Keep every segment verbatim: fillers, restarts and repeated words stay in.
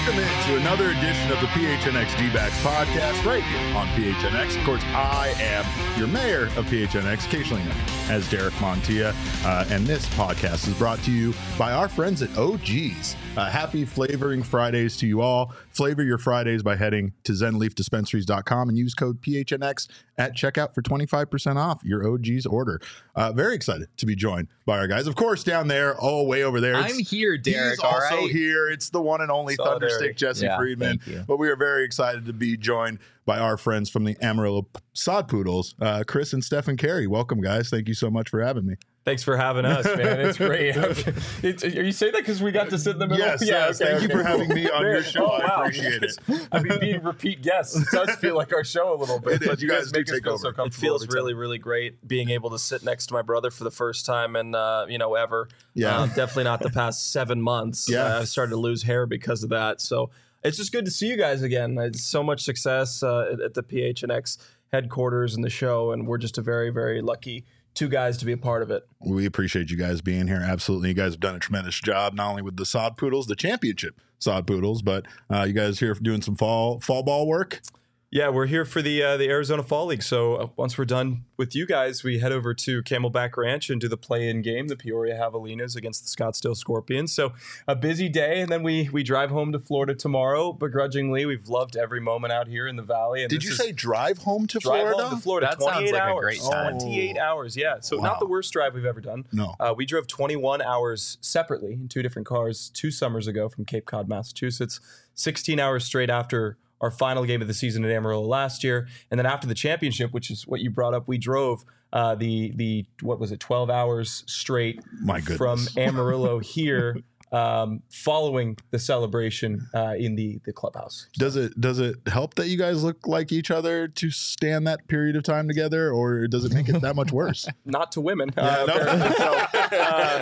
Welcome into another edition of the P H N X D-Backs podcast right here on P H N X. Of course, I am your mayor of P H N X, occasionally known as Derek Montilla, uh, and this podcast is brought to you by our friends at O G's. Uh, happy Flavoring Fridays to you all. Flavor your Fridays by heading to zen leaf dispensaries dot com and use code P H N X at checkout for twenty-five percent off your O G's order. Uh, very excited to be joined by our guys. Of course, down there, oh, way over there. I'm here, Derek. He's also all right? here. It's the one and only Thunderstick Jesse yeah, Friedman. But we are very excited to be joined by our friends from the Amarillo Sod Poodles, uh, Chris and Stephen Carey. Welcome, guys. Thank you so much for having me. Thanks for having us, man. It's great. It's, are you saying that because we got to sit in the middle? Yes, yeah, yes. okay, Thank okay. you for having me on your show. Oh, I wow. appreciate it. I mean, being repeat guests does feel like our show a little bit. It is. But You guys do make us take feel over. so It comfortable. It feels every really, time. really great being able to sit next to my brother for the first time and, uh, you know, ever. Yeah. Uh, definitely not the past seven months. Yeah. Uh, I've started to lose hair because of that. So it's just good to see you guys again. It's so much success uh, at, at the P H N X headquarters and the show, and we're just a very, very lucky two guys to be a part of it. We appreciate you guys being here. Absolutely. You guys have done a tremendous job, not only with the Sod Poodles, the championship Sod Poodles, but uh, you guys here for doing some fall fall ball work. Yeah, we're here for the uh, the Arizona Fall League. So uh, once we're done with you guys, we head over to Camelback Ranch and do the play-in game, the Peoria Javelinas against the Scottsdale Scorpions. So a busy day, and then we we drive home to Florida tomorrow. Begrudgingly, we've loved every moment out here in the Valley. And Did this you is say drive home to drive Florida? home to Florida? That sounds twenty-eight like a hours. great time. twenty-eight hours, yeah. So Wow. not the worst drive we've ever done. No. Uh, we drove twenty-one hours separately in two different cars two summers ago from Cape Cod, Massachusetts. sixteen hours straight after our final game of the season at Amarillo last year, and then after the championship, which is what you brought up, we drove uh, the the what was it, twelve hours straight My goodness. from Amarillo here, um, following the celebration uh, in the the clubhouse. Does it does it help that you guys look like each other to stand that period of time together, or does it make it that much worse? Not to women, Yeah, uh, no. apparently. So,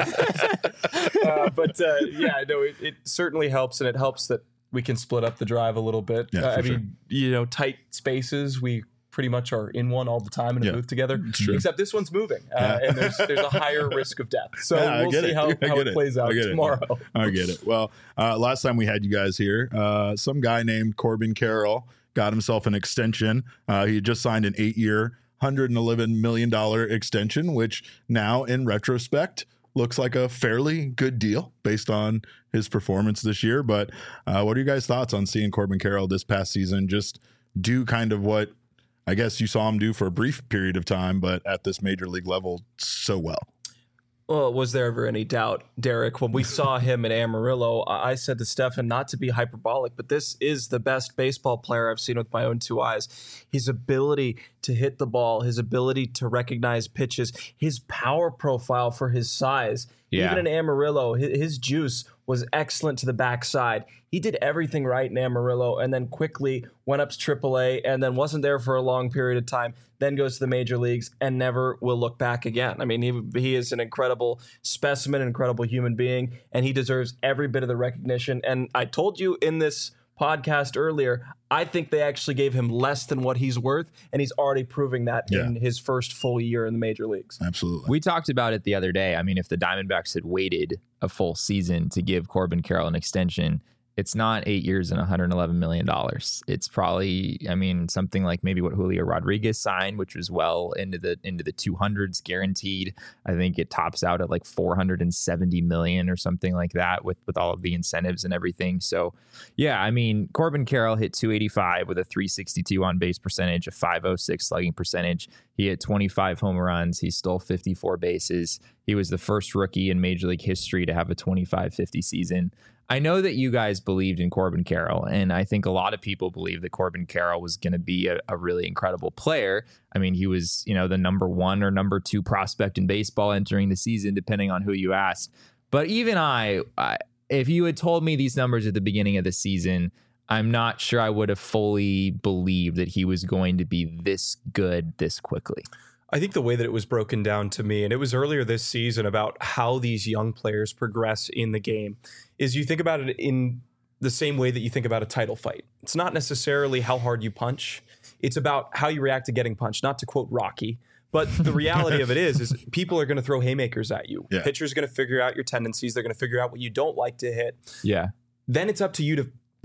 uh, uh, but uh, yeah, no, it, it certainly helps, and it helps that we can split up the drive a little bit. Yeah, uh, for I mean, you know, tight spaces. We pretty much are in one all the time in a Yeah, booth together. it's true. Except this one's moving, uh, Yeah. and there's there's a higher risk of death. So Yeah, I we'll get see it. how, I how get it it. plays out I get it. tomorrow. I get it. Well, uh, last time we had you guys here, uh, some guy named Corbin Carroll got himself an extension. Uh, he had just signed an eight-year, one hundred eleven million dollars extension, which now, in retrospect, looks like a fairly good deal based on his performance this year. But uh, what are you guys' thoughts on seeing Corbin Carroll this past season just do kind of what I guess you saw him do for a brief period of time, but at this major league level so well? Well, was there ever any doubt, Derek? When we saw him in Amarillo, I I said to Stefan, not to be hyperbolic, but this is the best baseball player I've seen with my own two eyes. His ability to hit the ball, his ability to recognize pitches, his power profile for his size. Yeah. Even in Amarillo, his, his juice was excellent to the backside. He did everything right in Amarillo and then quickly went up to triple A and then wasn't there for a long period of time, then goes to the major leagues and never will look back again. I mean, he, he is an incredible specimen, an incredible human being, and he deserves every bit of the recognition. And I told you in this podcast earlier, I think they actually gave him less than what he's worth, and he's already proving that Yeah. in his first full year in the major leagues. Absolutely. We talked about it the other day. I mean, if the Diamondbacks had waited a full season to give Corbin Carroll an extension, it's not eight years and one hundred eleven million dollars. It's probably, I mean, something like maybe what Julio Rodriguez signed, which was well into the into the two hundreds guaranteed. I think it tops out at like four hundred seventy million or something like that with, with all of the incentives and everything. So, yeah, I mean, Corbin Carroll hit two eighty-five with a three sixty-two on base percentage, a five oh six slugging percentage. He hit twenty-five home runs. He stole fifty-four bases. He was the first rookie in Major League history to have a twenty-five fifty season. I know that you guys believed in Corbin Carroll, and I think a lot of people believe that Corbin Carroll was going to be a, a really incredible player. I mean, he was, you know, the number one or number two prospect in baseball entering the season, depending on who you asked. But even I, I if you had told me these numbers at the beginning of the season, I'm not sure I would have fully believed that he was going to be this good this quickly. I think the way that it was broken down to me, and it was earlier this season, about how these young players progress in the game, is you think about it in the same way that you think about a title fight. It's not necessarily how hard you punch. It's about how you react to getting punched, not to quote Rocky. But the reality of it is, is people are going to throw haymakers at you. Yeah. Pitchers are going to figure out your tendencies. They're going to figure out what you don't like to hit. Yeah. Then it's up to you to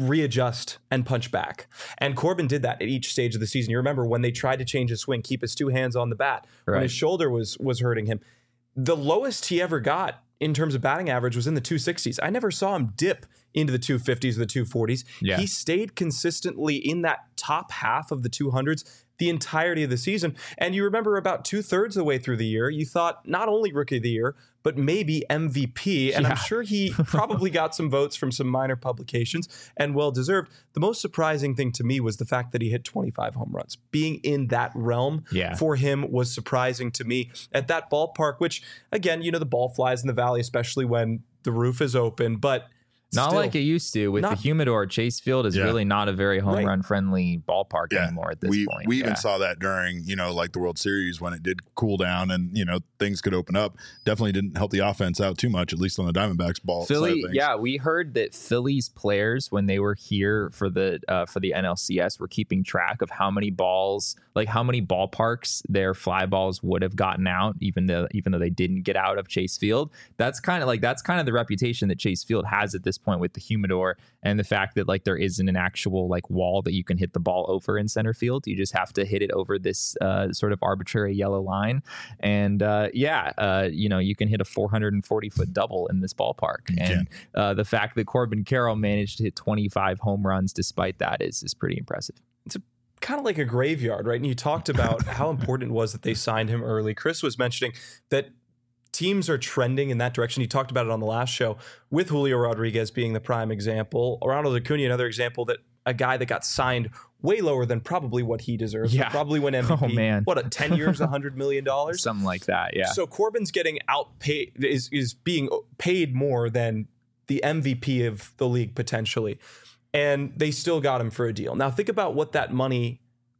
readjust and punch back. And Corbin did that at each stage of the season. You remember when they tried to change his swing, keep his two hands on the bat, Right. when his shoulder was was hurting him. The lowest he ever got in terms of batting average was in the two sixties. I never saw him dip into the two fifties or the two forties. Yeah. He stayed consistently in that top half of the two hundreds the entirety of the season. And you remember about two thirds of the way through the year, you thought not only Rookie of the Year, but maybe M V P. And Yeah. I'm sure he probably got some votes from some minor publications, and well deserved. The most surprising thing to me was the fact that he hit twenty-five home runs. Being in that realm Yeah. for him was surprising to me at that ballpark, which again, you know, the ball flies in the valley, especially when the roof is open, but Not still, like it used to with Not- the humidor. Chase Field is Yeah. really not a very home Right. run friendly ballpark Yeah. anymore at this we point. we even Yeah. saw that during, you know, like the World Series when it did cool down and, you know, things could open up. Definitely didn't help the offense out too much, at least on the Diamondbacks ball side Philly, of things. yeah, we heard that Philly's players, when they were here for the uh, for the N L C S, were keeping track of how many balls, like how many ballparks their fly balls would have gotten out, even though even though they didn't get out of Chase Field. That's kind of like that's kind of the reputation that Chase Field has at this point with the humidor and the fact that like there isn't an actual like wall that you can hit the ball over in center field. You just have to hit it over this uh, sort of arbitrary yellow line, and uh, yeah, uh, you know you can hit a four hundred forty foot double in this ballpark. You And uh, the fact that Corbin Carroll managed to hit twenty-five home runs despite that is is pretty impressive. kind of like a graveyard, right? And you talked about how important it was that they signed him early. Chris was mentioning that teams are trending in that direction. He talked about it on the last show with Julio Rodriguez being the prime example. Ronald Acuna, another example that a guy that got signed way lower than probably what he deserves. Yeah. Probably win M V P. Oh, man. What, a ten years, one hundred million dollars? Something like that, yeah. So Corbin's getting outpaid, is, is being paid more than the M V P of the league potentially. And they still got him for a deal. Now think about what that money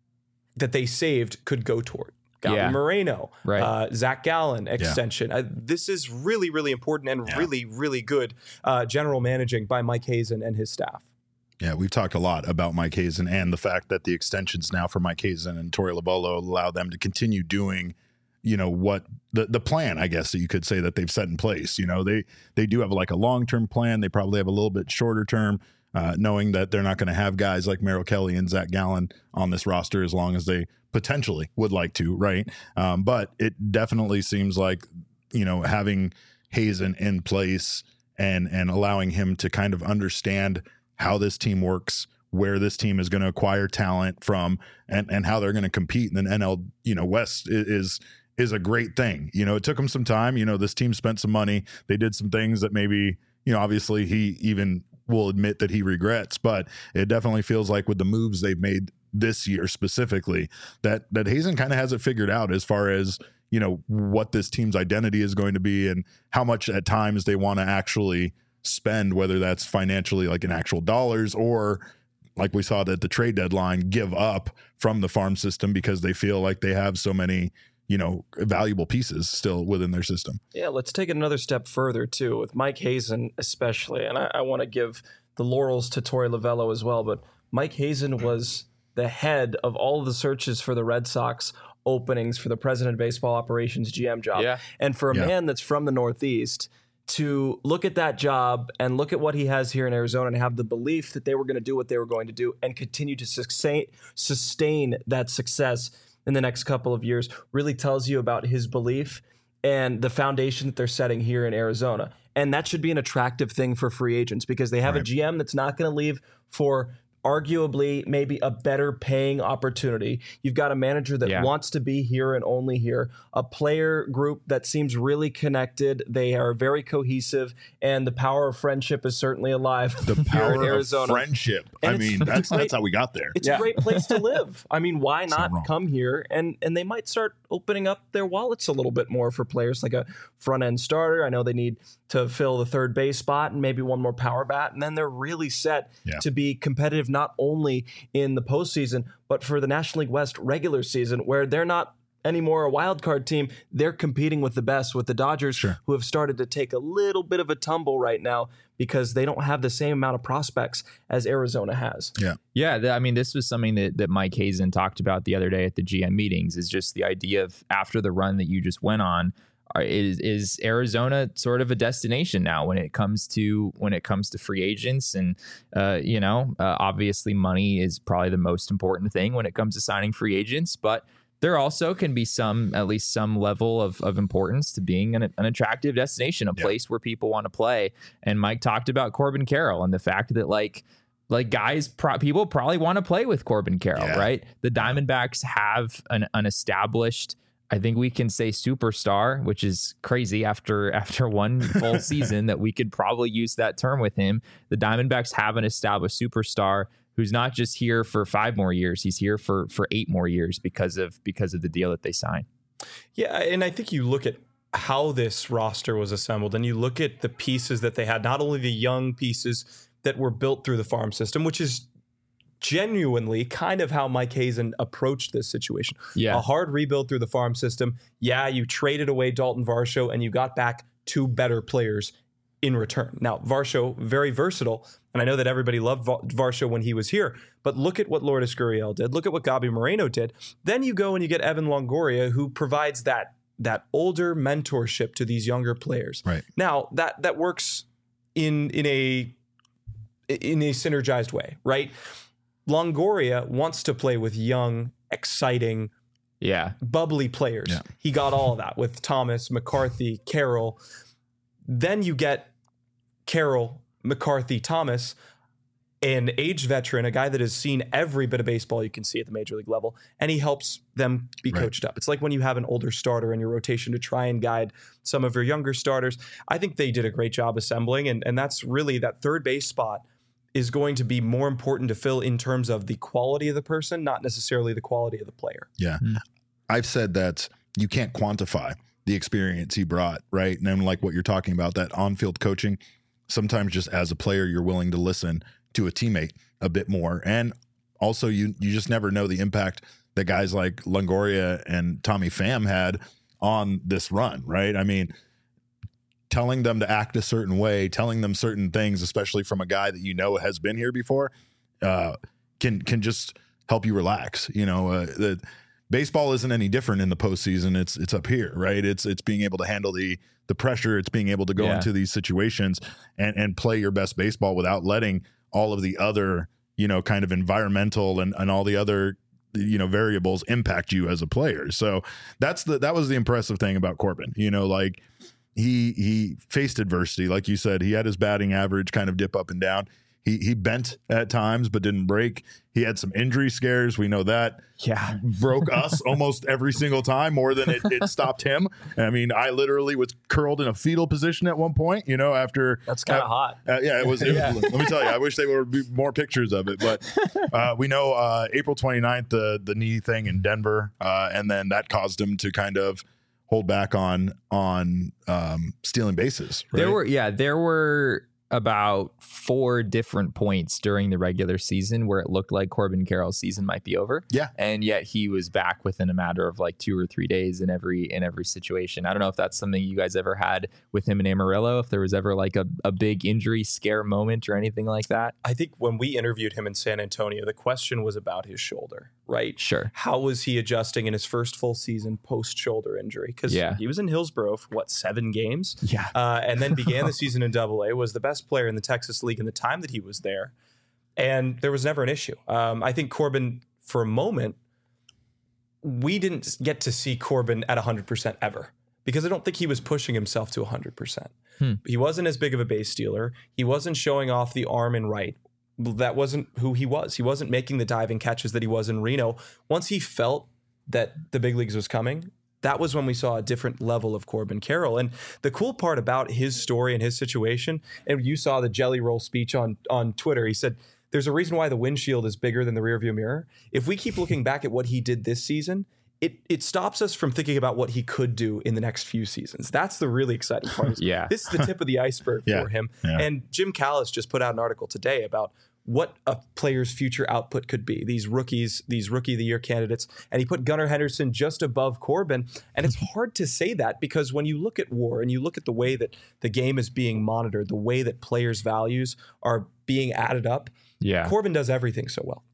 that they saved could go toward. Galvin Yeah. Moreno, Right. uh, Zach Gallen extension. Uh, this is really, really important and Yeah. really, really good uh, general managing by Mike Hazen and his staff. Yeah, we've talked a lot about Mike Hazen and the fact that the extensions now for Mike Hazen and Torey Lovullo allow them to continue doing, you know, what the the plan, I guess that you could say that they've set in place. You know, they they do have like a long term plan. They probably have a little bit shorter term, uh, knowing that they're not going to have guys like Merrill Kelly and Zach Gallen on this roster as long as they potentially would like to, right? Um, but it definitely seems like, you know, having Hazen in place and and allowing him to kind of understand how this team works, where this team is going to acquire talent from, and and how they're going to compete in the N L, you know, West is is a great thing. You know, it took them some time. You know, this team spent some money. They did some things that maybe, you know, obviously he even will admit that he regrets, but it definitely feels like with the moves they've made this year specifically, that that Hazen kind of has it figured out as far as, you know, what this team's identity is going to be and how much at times they want to actually spend, whether that's financially like in actual dollars or like we saw at the trade deadline, give up from the farm system because they feel like they have so many, you know, valuable pieces still within their system. Yeah, let's take it another step further too, with Mike Hazen especially. And I, I want to give the laurels to Torey Lovullo as well, but Mike Hazen was the head of all of the searches for the Red Sox openings for the president of baseball operations G M job. Yeah. And for a Yeah. man that's from the Northeast to look at that job and look at what he has here in Arizona and have the belief that they were going to do what they were going to do and continue to sustain sustain that success in the next couple of years really tells you about his belief and the foundation that they're setting here in Arizona. And that should be an attractive thing for free agents because they have a Right. G M that's not going to leave for arguably maybe a better paying opportunity. You've got a manager that Yeah. wants to be here and only here, a player group that seems really connected. They are very cohesive, and the power of friendship is certainly alive The here power in of Arizona. friendship. And I it's- mean, it's that's great. that's how we got there. It's Yeah. a great place to live. I mean, why not not wrong. come here? And and they might start opening up their wallets a little bit more for players like a front end starter. I know they need to fill the third base spot and maybe one more power bat, and then they're really set Yeah. to be competitive not only in the postseason but for the National League West regular season, where they're not anymore a wild card team. They're competing with the best, with the Dodgers, Sure. who have started to take a little bit of a tumble right now because they don't have the same amount of prospects as Arizona has. Yeah. Yeah, th- I mean, this was something that, that Mike Hazen talked about the other day at the G M meetings, is just the idea of after the run that you just went on, are, is is Arizona sort of a destination now when it comes to when it comes to free agents? And uh, you know, uh, obviously money is probably the most important thing when it comes to signing free agents, but there also can be some, at least some level of, of importance to being an, an attractive destination, a place yeah. where people want to play. And Mike talked about Corbin Carroll and the fact that like, like guys, pro- people probably want to play with Corbin Carroll, yeah. right? The Diamondbacks have an, an established, I think we can say superstar, which is crazy after after one full season that we could probably use that term with him. The Diamondbacks have an established superstar who's not just here for five more years. He's here for for eight more years because of because of the deal that they signed. Yeah, and I think you look at how this roster was assembled and you look at the pieces that they had, not only the young pieces that were built through the farm system, which is genuinely kind of how Mike Hazen approached this situation. Yeah. A hard rebuild through the farm system. Yeah, you traded away Dalton Varsho and you got back two better players in return. Now, Varsho, very versatile, and I know that everybody loved Varsho when he was here, but look at what Lourdes Gurriel did. Look at what Gabi Moreno did. Then you go and you get Evan Longoria, who provides that that older mentorship to these younger players. Right. Now, that that works in in a in a synergized way, right? Longoria wants to play with young, exciting, yeah, bubbly players. Yeah. He got all of that with Thomas, McCarthy, Carroll. Then you get Carroll, McCarthy, Thomas, an aged veteran, a guy that has seen every bit of baseball you can see at the major league level, and he helps them be right. coached up. It's like when you have an older starter in your rotation to try and guide some of your younger starters. I think they did a great job assembling, and, and that's really that third base spot is going to be more important to fill in terms of the quality of the person, not necessarily the quality of the player. Yeah. Mm-hmm. I've said that you can't quantify the experience he brought, right? And then like what you're talking about, that on-field coaching, sometimes just as a player, you're willing to listen to a teammate a bit more. And also you you just never know the impact that guys like Longoria and Tommy Pham had on this run, right? I mean, telling them to act a certain way, telling them certain things, especially from a guy that you know has been here before, uh, can can just help you relax. You know, uh, the baseball isn't any different in the postseason. It's it's up here, right? It's it's being able to handle the the pressure. It's being able to go yeah. into these situations and and play your best baseball without letting all of the other, you know, kind of environmental and and all the other, you know, variables impact you as a player. So that's the that was the impressive thing about Corbin. You know, like. He he faced adversity. Like you said, he had his batting average kind of dip up and down. He he bent at times, but didn't break. He had some injury scares. We know that. Yeah. Broke us almost every single time, more than it, it stopped him. I mean, I literally was curled in a fetal position at one point, you know, after. That's kind of uh, hot. Uh, yeah, it was. It, yeah. Let me tell you, I wish there would be more pictures of it. But uh, we know uh, April twenty-ninth, the, the knee thing in Denver, uh, and then that caused him to kind of hold back on on um, stealing bases. Right? There were, yeah, there were about four different points during the regular season where it looked like Corbin Carroll's season might be over. Yeah. And yet he was back within a matter of like two or three days in every in every situation. I don't know if that's something you guys ever had with him in Amarillo, if there was ever like a, a big injury scare moment or anything like that. I think when we interviewed him in San Antonio, the question was about his shoulder, right? Sure. How was he adjusting in his first full season post-shoulder injury? Because yeah. he was in Hillsborough for, what, seven games? Yeah. Uh, and then began the season in Double A, was the best player in the Texas League in the time that he was there. And there was never an issue. Um, I think Corbin, for a moment, we didn't get to see Corbin at one hundred percent ever, because I don't think he was pushing himself to one hundred percent. Hmm. He wasn't as big of a base stealer. He wasn't showing off the arm and right. That wasn't who he was. He wasn't making the diving catches that he was in Reno. Once he felt that the big leagues was coming, that was when we saw a different level of Corbin Carroll. And the cool part about his story and his situation, and you saw the jelly roll speech on, on Twitter, he said, there's a reason why the windshield is bigger than the rearview mirror. If we keep looking back at what he did this season, it it stops us from thinking about what he could do in the next few seasons. That's the really exciting part. Yeah. This is the tip of the iceberg yeah. for him. Yeah. And Jim Callis just put out an article today about what a player's future output could be. These rookies, these rookie of the year candidates. And he put Gunnar Henderson just above Corbin. And it's hard to say that, because when you look at WAR and you look at the way that the game is being monitored, the way that players' values are being added up, yeah. Corbin does everything so well.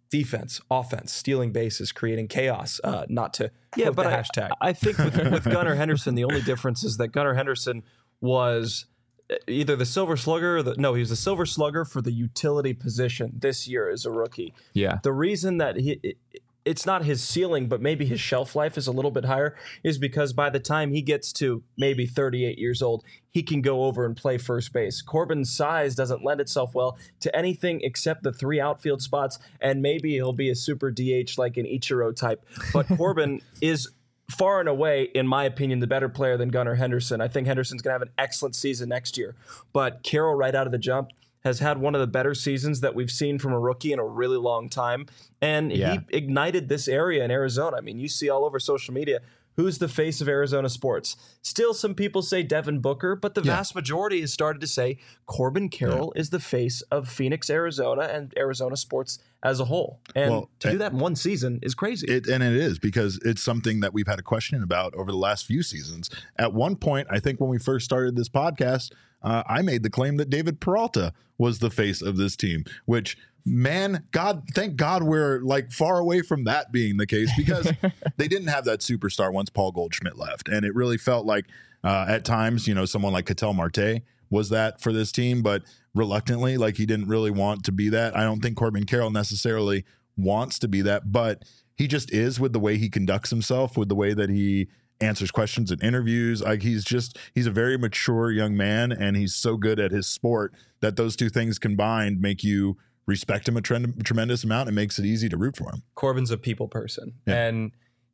defense, offense, stealing bases, creating chaos, uh, not to Yeah, quote but the I, hashtag. I think with, with Gunnar Henderson, the only difference is that Gunnar Henderson was either the Silver Slugger or the, no, he was the Silver Slugger for the utility position this year as a rookie. Yeah. The reason that he it, it's not his ceiling, but maybe his shelf life is a little bit higher, is because by the time he gets to maybe thirty-eight years old, he can go over and play first base. Corbin's size doesn't lend itself well to anything except the three outfield spots, and maybe he'll be a super D H like an Ichiro type. But Corbin is far and away, in my opinion, the better player than Gunnar Henderson. I think Henderson's going to have an excellent season next year. But Carroll, right out of the jump, has had one of the better seasons that we've seen from a rookie in a really long time. And Yeah. he ignited this area in Arizona. I mean, you see all over social media, who's the face of Arizona sports? Still, some people say Devin Booker, but the Yeah. vast majority has started to say Corbin Carroll is the face of Phoenix, Arizona, and Arizona sports as a whole. And Well, to do and- that in one season is crazy. It, and it is, because it's something that we've had a question about over the last few seasons. At one point, I think when we first started this podcast, uh, I made the claim that David Peralta was the face of this team, which, man, God, thank God we're like far away from that being the case, because they didn't have that superstar once Paul Goldschmidt left. And it really felt like uh, at times, you know, someone like Ketel Marte was that for this team, but reluctantly, like he didn't really want to be that. I don't think Corbin Carroll necessarily wants to be that, but he just is, with the way he conducts himself, with the way that he answers questions in interviews. Like he's just, he's a very mature young man, and he's so good at his sport that those two things combined make you respect him a trend, tremendous amount. It makes it easy to root for him. Corbin's a people person, Yeah. and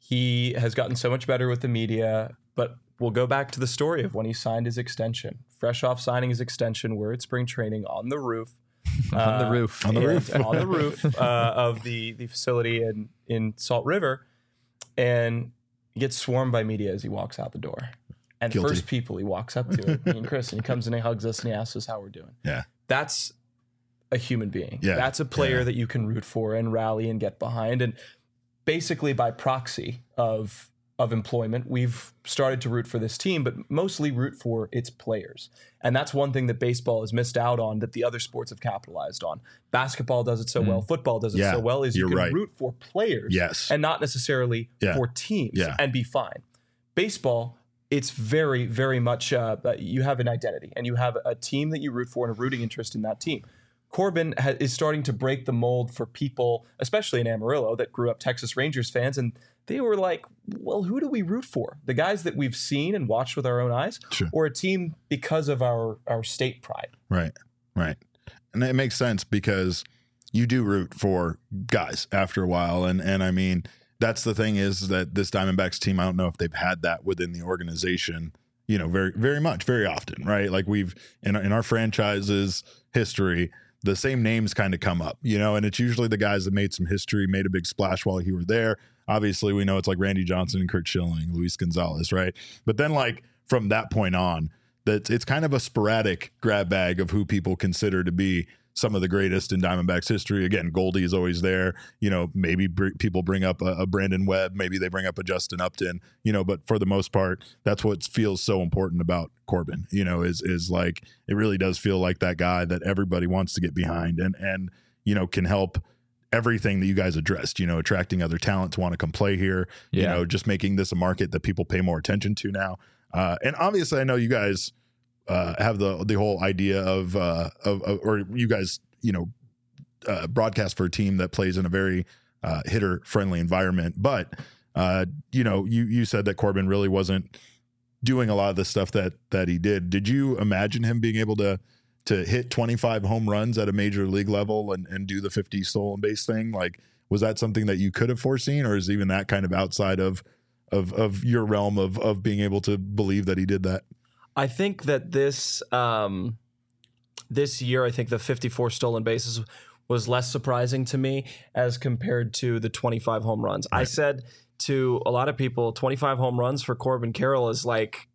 he has gotten so much better with the media. But we'll go back to the story of when he signed his extension. Fresh off signing his extension, we're at spring training on the roof. On the Uh, roof. On the and- roof. on the roof uh, of the, the facility in, in Salt River. And he gets swarmed by media as he walks out the door. And Guilty. first people he walks up to, me and Chris, and he comes in and he hugs us and he asks us how we're doing. Yeah. That's a human being. Yeah. That's a player Yeah. that you can root for and rally and get behind. And basically by proxy of of employment, we've started to root for this team, but mostly root for its players. And that's one thing that baseball has missed out on that the other sports have capitalized on. Basketball does it so well, football does it Yeah, so well, is you you're can right. root for players Yes. and not necessarily Yeah. for teams Yeah. and be fine. Baseball, it's very, very much, uh, you have an identity and you have a team that you root for and a rooting interest in that team. Corbin ha- is starting to break the mold for people, especially in Amarillo, that grew up Texas Rangers fans, and they were like, well, who do we root for? The guys that we've seen and watched with our own eyes, Sure. or a team because of our, our state pride? Right. Right. And it makes sense, because you do root for guys after a while. And, and I mean, that's the thing, is that this Diamondbacks team, I don't know if they've had that within the organization, you know, very, very much, very often, right? Like we've, in, in our franchise's history, the same names kind of come up, you know, and it's usually the guys that made some history, made a big splash while you were there. Obviously, we know it's like Randy Johnson and Kurt Schilling, Luis Gonzalez, right? But then, like, from that point on, that it's kind of a sporadic grab bag of who people consider to be some of the greatest in Diamondbacks history. Again, Goldie is always there. You know, maybe br- people bring up a, a Brandon Webb, maybe they bring up a Justin Upton, you know, but for the most part, that's what feels so important about Corbin, you know, is is like, it really does feel like that guy that everybody wants to get behind and, and you know, can help everything that you guys addressed, you know, attracting other talent to want to come play here, you Yeah. know, just making this a market that people pay more attention to now. Uh, and obviously, I know you guys uh, have the the whole idea of, uh, of, of, or you guys, you know, uh, broadcast for a team that plays in a very uh, hitter friendly environment. But, uh, you know, you, you said that Corbin really wasn't doing a lot of the stuff that, that he did. Did you imagine him being able to, to hit twenty-five home runs at a major league level and, and do the fifty stolen base thing? Like, was that something that you could have foreseen, or is even that kind of outside of, of, of your realm of, of being able to believe that he did that? I think that this um, this year, I think the fifty-four stolen bases was less surprising to me as compared to the twenty-five home runs. I Right. said to a lot of people, twenty-five home runs for Corbin Carroll is like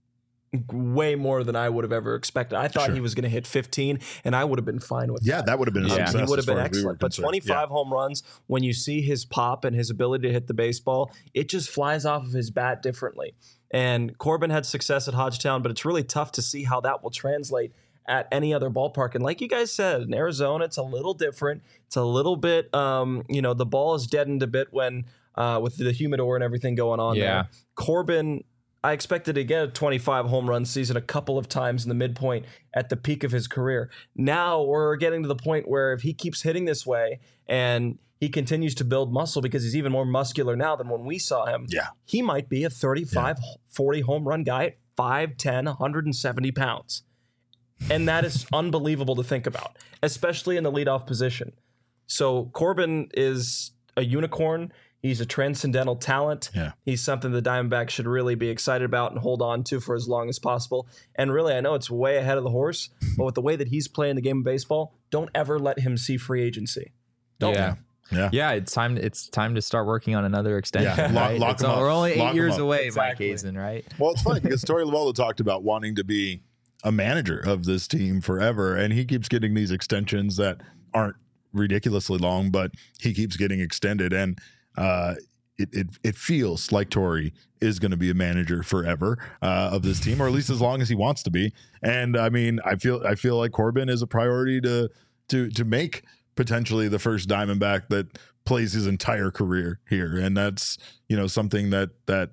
way more than I would have ever expected. I thought Sure. he was going to hit fifteen, and I would have been fine with Yeah, that. that would have been a Yeah. success. He would have as far been as we were excellent. But concerned. twenty-five home runs, when you see his pop and his ability to hit the baseball, it just flies off of his bat differently. And Corbin had success at Hodgetown, but it's really tough to see how that will translate at any other ballpark. And like you guys said, in Arizona, it's a little different. It's a little bit, um, you know, the ball is deadened a bit when uh, with the humidor and everything going on Yeah. there. Corbin, I expected to get a twenty-five home run season a couple of times in the midpoint at the peak of his career. Now we're getting to the point where if he keeps hitting this way and he continues to build muscle because he's even more muscular now than when we saw him, Yeah. he might be a thirty-five, forty home run guy at five ten, one hundred seventy pounds. And that is unbelievable to think about, especially in the leadoff position. So Corbin is a unicorn. He's a transcendental talent. Yeah. He's something the Diamondbacks should really be excited about and hold on to for as long as possible. And really, I know it's way ahead of the horse, but with the way that he's playing the game of baseball, don't ever let him see free agency. Don't. Yeah. Yeah. Yeah, it's time. It's time to start working on another extension. Yeah, lock- right? lock It's him all- up. We're only eight Lock him years up. away, Exactly. Mike Hazen, right? Well, it's funny because Torey Lovullo talked about wanting to be a manager of this team forever, and he keeps getting these extensions that aren't ridiculously long, but he keeps getting extended, and uh, it, it it feels like Torey is going to be a manager forever uh, of this team, or at least as long as he wants to be. And I mean, I feel I feel like Corbin is a priority to to to make potentially the first Diamondback that plays his entire career here, and that's you know something that that.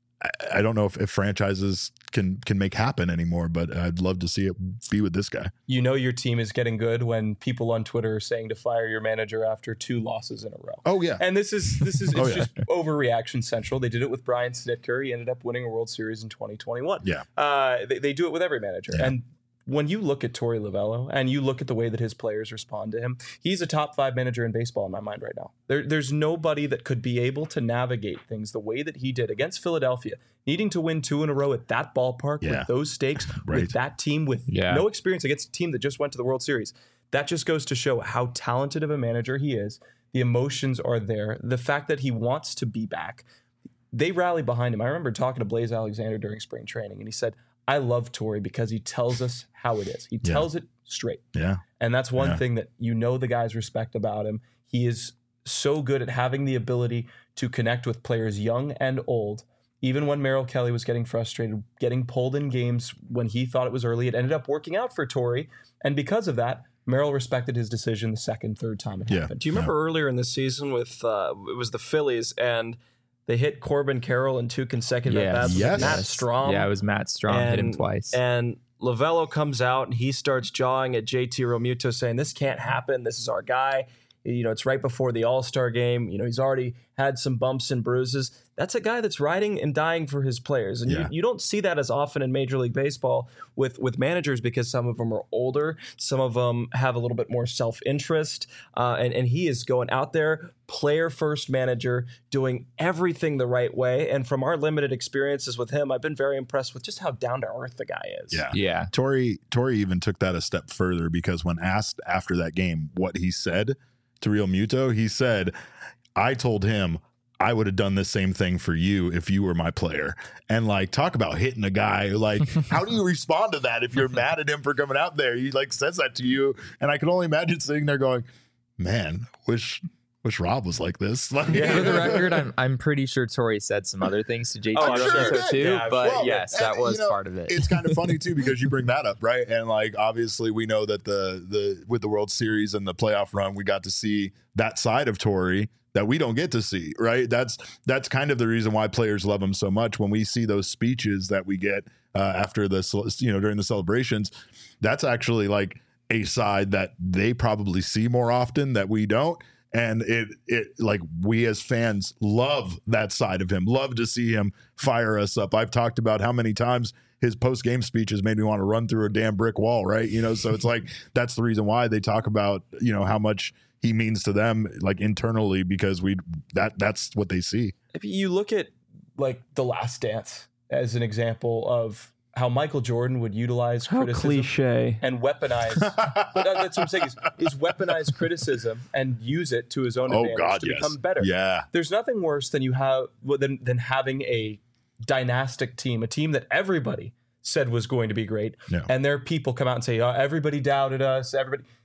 I don't know if, if franchises can can make happen anymore, but I'd love to see it be with this guy. You know your team is getting good when people on Twitter are saying to fire your manager after two losses in a row. Oh yeah, And this is this is it's Oh, yeah. just overreaction central. They did it with Brian Snitker. He ended up winning a World Series in twenty twenty-one. Yeah. Uh, they, they do it with every manager. Yeah. And when you look at Torey Lovullo and you look at the way that his players respond to him, he's a top five manager in baseball in my mind right now. There, there's nobody that could be able to navigate things the way that he did against Philadelphia, needing to win two in a row at that ballpark Yeah. with those stakes, Right. with that team, with Yeah. no experience against a team that just went to the World Series. That just goes to show how talented of a manager he is. The emotions are there. The fact that he wants to be back. They rally behind him. I remember talking to Blaze Alexander during spring training, and he said, I love Torey because he tells us how it is. He Yeah. tells it straight. yeah, And that's one Yeah. thing that you know the guys respect about him. He is so good at having the ability to connect with players young and old. Even when Merrill Kelly was getting frustrated, getting pulled in games when he thought it was early, it ended up working out for Torey. And because of that, Merrill respected his decision the second, third time it Yeah. happened. Do you remember earlier in the season with uh, it was the Phillies and they hit Corbin Carroll in two consecutive Yes. at-bats with Yes. Matt Strom? Yeah, it was Matt Strom hit him And- twice. And Lovullo comes out and he starts jawing at J T Realmuto saying, this can't happen. This is our guy. You know, it's right before the All-Star game. You know, he's already had some bumps and bruises. That's a guy that's riding and dying for his players. And Yeah. you, you don't see that as often in Major League Baseball with, with managers because some of them are older. Some of them have a little bit more self-interest. Uh, and, and he is going out there, player-first manager, doing everything the right way. And from our limited experiences with him, I've been very impressed with just how down-to-earth the guy is. yeah. yeah. Torey Torey even took that a step further because when asked after that game what he said to Real Muto, he said, I told him I would have done the same thing for you if you were my player. And like, talk about hitting a guy. Like, how do you respond to that if you're mad at him for coming out there? He like says that to you. And I can only imagine sitting there going, man, wish wish Rob was like this. Like, For the record, I'm I'm pretty sure Torey said some other things to J T Oh, I'm sure Realmuto he did. too, Yeah, I'm but Well, yes, and, that was you know, part of it. It's kind of funny too because you bring that up, right? And like obviously we know that the the with the World Series and the playoff run, we got to see that side of Torey that we don't get to see, right? That's that's kind of the reason why players love him so much. When we see those speeches that we get uh, after the you know during the celebrations, that's actually like a side that they probably see more often that we don't. And it it like we as fans love that side of him, love to see him fire us up. I've talked about how many times his post game speeches made me want to run through a damn brick wall, right? You know, so it's like that's the reason why they talk about, you know, how much he means to them like internally because we that that's what they see. If you look at like The Last Dance as an example of how Michael Jordan would utilize How criticism cliche. and weaponize, but that's what I'm saying is, is weaponize criticism and use it to his own Oh advantage God, to yes. become better. Yeah. There's nothing worse than you have than than having a dynastic team, a team that everybody said was going to be great, Yeah. and their people come out and say, oh, everybody doubted us, everybody.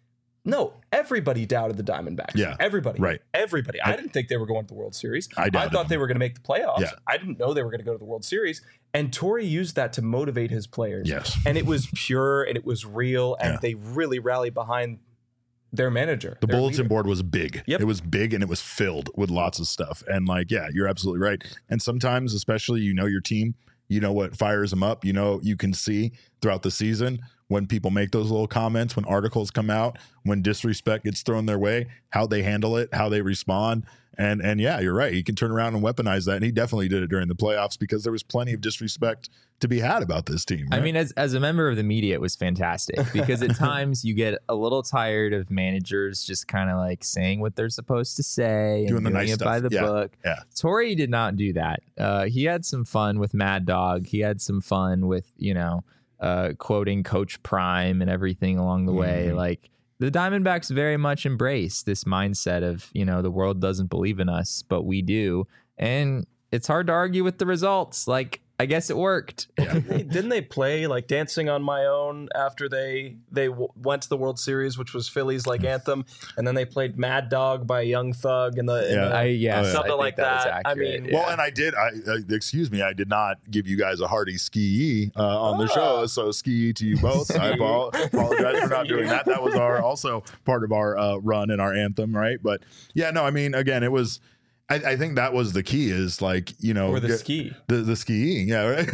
No, everybody doubted the Diamondbacks. Yeah. Everybody. Right. Everybody. I, I- didn't think they were going to the World Series. I I doubted thought them. they were going to make the playoffs. Yeah. I didn't know they were going to go to the World Series. And Torrey used that to motivate his players. Yes. And it was pure and it was real. And Yeah. they really rallied behind their manager. The their bulletin leader. board was big. Yep. It was big and it was filled with lots of stuff. And like, yeah, you're absolutely right. And sometimes, especially, you know, your team, you know what fires them up. You know, you can see throughout the season when people make those little comments, when articles come out, when disrespect gets thrown their way, how they handle it, how they respond. And and yeah, you're right. He can turn around and weaponize that. And he definitely did it during the playoffs because there was plenty of disrespect to be had about this team. I right? mean, as as a member of the media, it was fantastic because at times you get a little tired of managers just kind of like saying what they're supposed to say Doing and the doing nice it by stuff. the Yeah. book. Yeah. Torrey did not do that. Uh, he had some fun with Mad Dog. He had some fun with, you know, uh, quoting Coach Prime and everything along the way. Mhm. Like the Diamondbacks very much embrace this mindset of, you know, the world doesn't believe in us, but we do. And it's hard to argue with the results. Like, I guess it worked. Didn't they, didn't they play like Dancing on My Own after they they w- went to the World Series, which was Philly's like anthem, and then they played Mad Dog by Young Thug and the, in Yeah. the I, yes, Oh, yeah. I Something think like that. was that. I accurate, mean, yeah. Well, and I did. I uh, excuse me. I did not give you guys a hearty ski uh, on the Ah. show. So ski to you both. I apo- apologize for not doing that. That was our also part of our uh, run and our anthem, right? But yeah, no. I mean, again, it was. I, I think that was the key. Is like you know or the get- ski. the the skiing, yeah, right?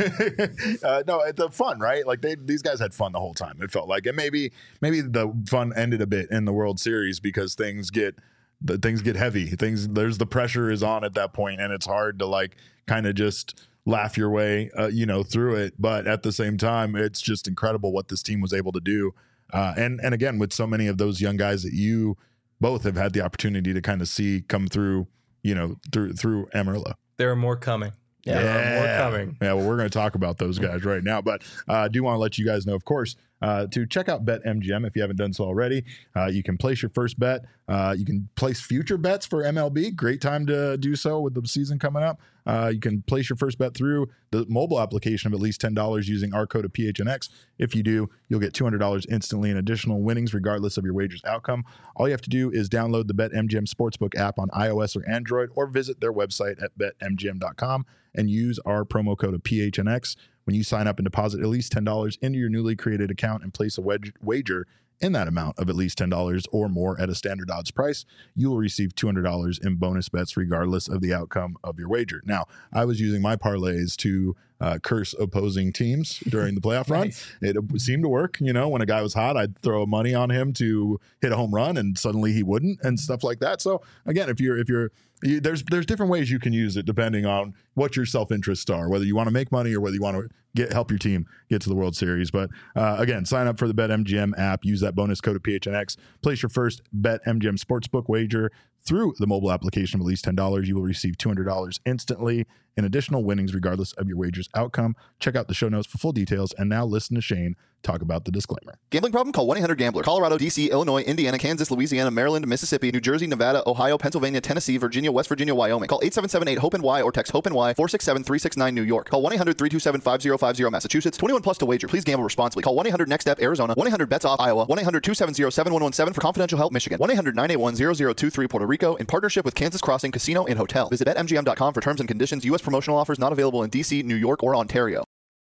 uh, no, the fun, right? Like they these guys had fun the whole time. It felt like, and maybe maybe the fun ended a bit in the World Series because things get the things get heavy. Things there's the pressure is on at that point, and it's hard to like kind of just laugh your way, uh, you know, through it. But at the same time, it's just incredible what this team was able to do. Uh, and and again, with so many of those young guys that you both have had the opportunity to kind of see come through, you know, through through Amarillo. There are more coming. Yeah. There are more coming. Yeah, well, we're going to talk about those guys right now. But uh, I do want to let you guys know, of course, uh, to check out BetMGM if you haven't done so already. Uh, you can place your first bet. Uh, you can place future bets for M L B. Great time to do so with the season coming up. Uh, you can place your first bet through the mobile application of at least ten dollars using our code of P H N X. If you do, you'll get two hundred dollars instantly in additional winnings regardless of your wager's outcome. All you have to do is download the BetMGM Sportsbook app on iOS or Android or visit their website at bet M G M dot com and use our promo code of P H N X. When you sign up and deposit at least ten dollars into your newly created account and place a wedge- wager in that amount of at least ten dollars or more at a standard odds price, you will receive two hundred dollars in bonus bets regardless of the outcome of your wager. Now, I was using my parlays to uh, curse opposing teams during the playoff run. Nice. It seemed to work. You know, when a guy was hot, I'd throw money on him to hit a home run and suddenly he wouldn't and stuff like that. So again, if you're, if you're, you, there's, there's different ways you can use it depending on what your self-interests are, whether you want to make money or whether you want to get, help your team get to the World Series. But uh, again, sign up for the BetMGM app, use that bonus code of P H N X, place your first BetMGM Sportsbook wager through the mobile application of at least ten dollars. You will receive two hundred dollars instantly in additional winnings regardless of your wager's outcome. Check out the show notes for full details. And now listen to Shane talk about the disclaimer. Gambling problem? Call one eight hundred gambler. Colorado, D C, Illinois, Indiana, Kansas, Louisiana, Maryland, Mississippi, New Jersey, Nevada, Ohio, Pennsylvania, Tennessee, Virginia, West Virginia, Wyoming. Call eight seven seven eight hope N Y or text HOPE-NY four six seven three six nine New York. Call one eight hundred three two seven five zero five zero Massachusetts. twenty-one plus to wager. Please gamble responsibly. Call one eight hundred next step Arizona. one eight hundred bets off Iowa. one eight hundred two seven zero seven one one seven for confidential help Michigan. one eight hundred nine eight one zero zero two three Puerto Rico in partnership with Kansas Crossing Casino and Hotel. Visit bet M G M dot com for terms and conditions. U S promotional offers not available in D C, New York, or Ontario.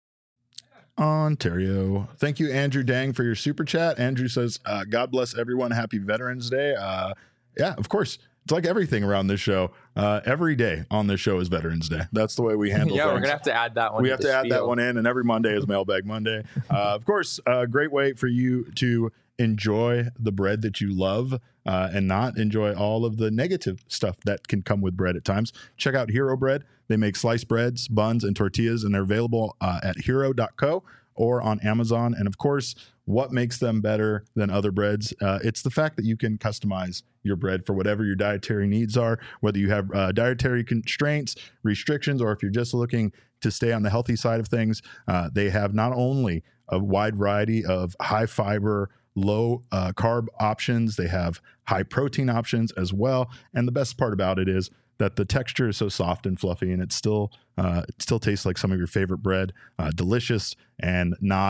Ontario. Thank you, Andrew Dang, for your super chat. Andrew says, uh, God bless everyone. Happy Veterans Day. Uh, yeah, of course. It's like everything around this show. Uh, every day on this show is Veterans Day. That's the way we handle yeah, things. we're gonna have to add that one. We to have the to add that spiel. one in, and every Monday is Mailbag Monday. Uh, of course, a great way for you to enjoy the bread that you love uh, and not enjoy all of the negative stuff that can come with bread at times. Check out Hero Bread. They make sliced breads, buns, and tortillas, and they're available uh, at hero dot co or on Amazon. And of course, what makes them better than other breads? Uh, it's the fact that you can customize your bread for whatever your dietary needs are, whether you have uh, dietary constraints, restrictions, or if you're just looking to stay on the healthy side of things. Uh, they have not only a wide variety of high fiber, low uh, carb options, they have high protein options as well. And the best part about it is that the texture is so soft and fluffy, and it still uh, it still tastes like some of your favorite bread, uh, delicious and not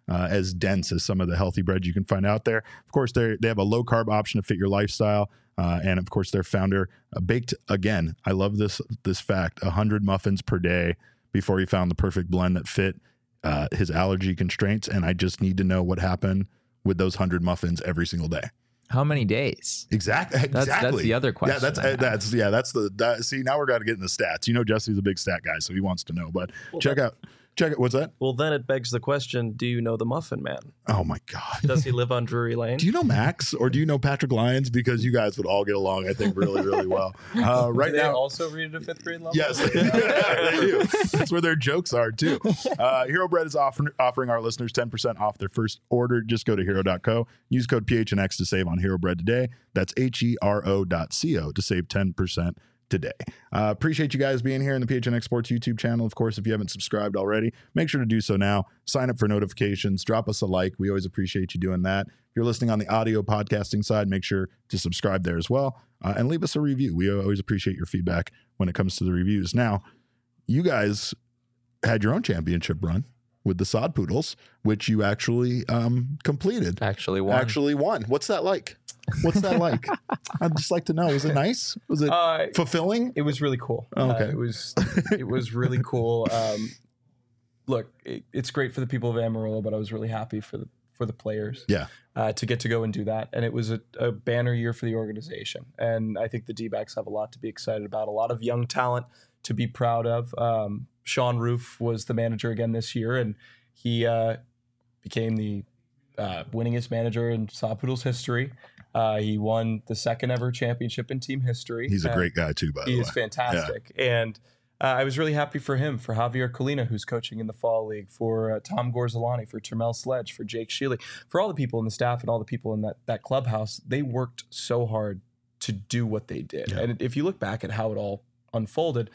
uh, as dense as some of the healthy breads you can find out there. Of course, they they have a low carb option to fit your lifestyle. Uh, and of course, their founder uh, baked, again, I love this this fact, one hundred muffins per day before he found the perfect blend that fit uh, his allergy constraints. And I just need to know what happened with those one hundred muffins every single day. How many days? Exactly. That's, exactly. that's the other question. Yeah, that's uh, that's yeah, that's the that, see. Now we're going to get in the stats. You know, Jesse's a big stat guy, so he wants to know. But well, check that, out, check it. What's that? Well, then it begs the question: do you know the Muffin Man? Oh my God! Does he live on Drury Lane? Do you know Max or do you know Patrick Lyons? Because you guys would all get along, I think, really, really well. Uh, right do they now, also read at a fifth grade level. yes, they, yeah, they do. That's where their jokes are too. Uh, Hero Bread is offer, offering our listeners ten percent off their first order. Just go to hero dot co. Use code P H N X to save on Hero Bread today. That's H E R O dot C O to save ten percent today. Uh, appreciate you guys being here in the P H N X Sports YouTube channel. Of course, if you haven't subscribed already, make sure to do so now. Sign up for notifications. Drop us a like. We always appreciate you doing that. If you're listening on the audio podcasting side, make sure to subscribe there as well. Uh, and leave us a review. We always appreciate your feedback when it comes to the reviews. Now, you guys had your own championship run with the Sod Poodles, which you actually um, completed. Actually won. Actually won. What's that like? What's that like? I'd just like to know. Was it nice? Was it Uh, fulfilling? It was really cool. Oh, okay. Uh, it was it was really cool. Um, look, it, it's great for the people of Amarillo, but I was really happy for the for the players. Yeah. Uh, to get to go and do that, and it was a, a banner year for the organization. And I think the D-backs have a lot to be excited about. A lot of young talent to be proud of. Um, Sean Roof was the manager again this year, and he uh, became the uh, winningest manager in Sod Poodles history. Uh, he won the second ever championship in team history. He's a And great guy too, by the way. He is fantastic. And uh, I was really happy for him, for Javier Colina, who's coaching in the Fall League, for uh, Tom Gorzolani, for Termel Sledge, for Jake Shealy, for all the people in the staff and all the people in that, that clubhouse. They worked so hard to do what they did. Yeah. And if you look back at how it all unfolded,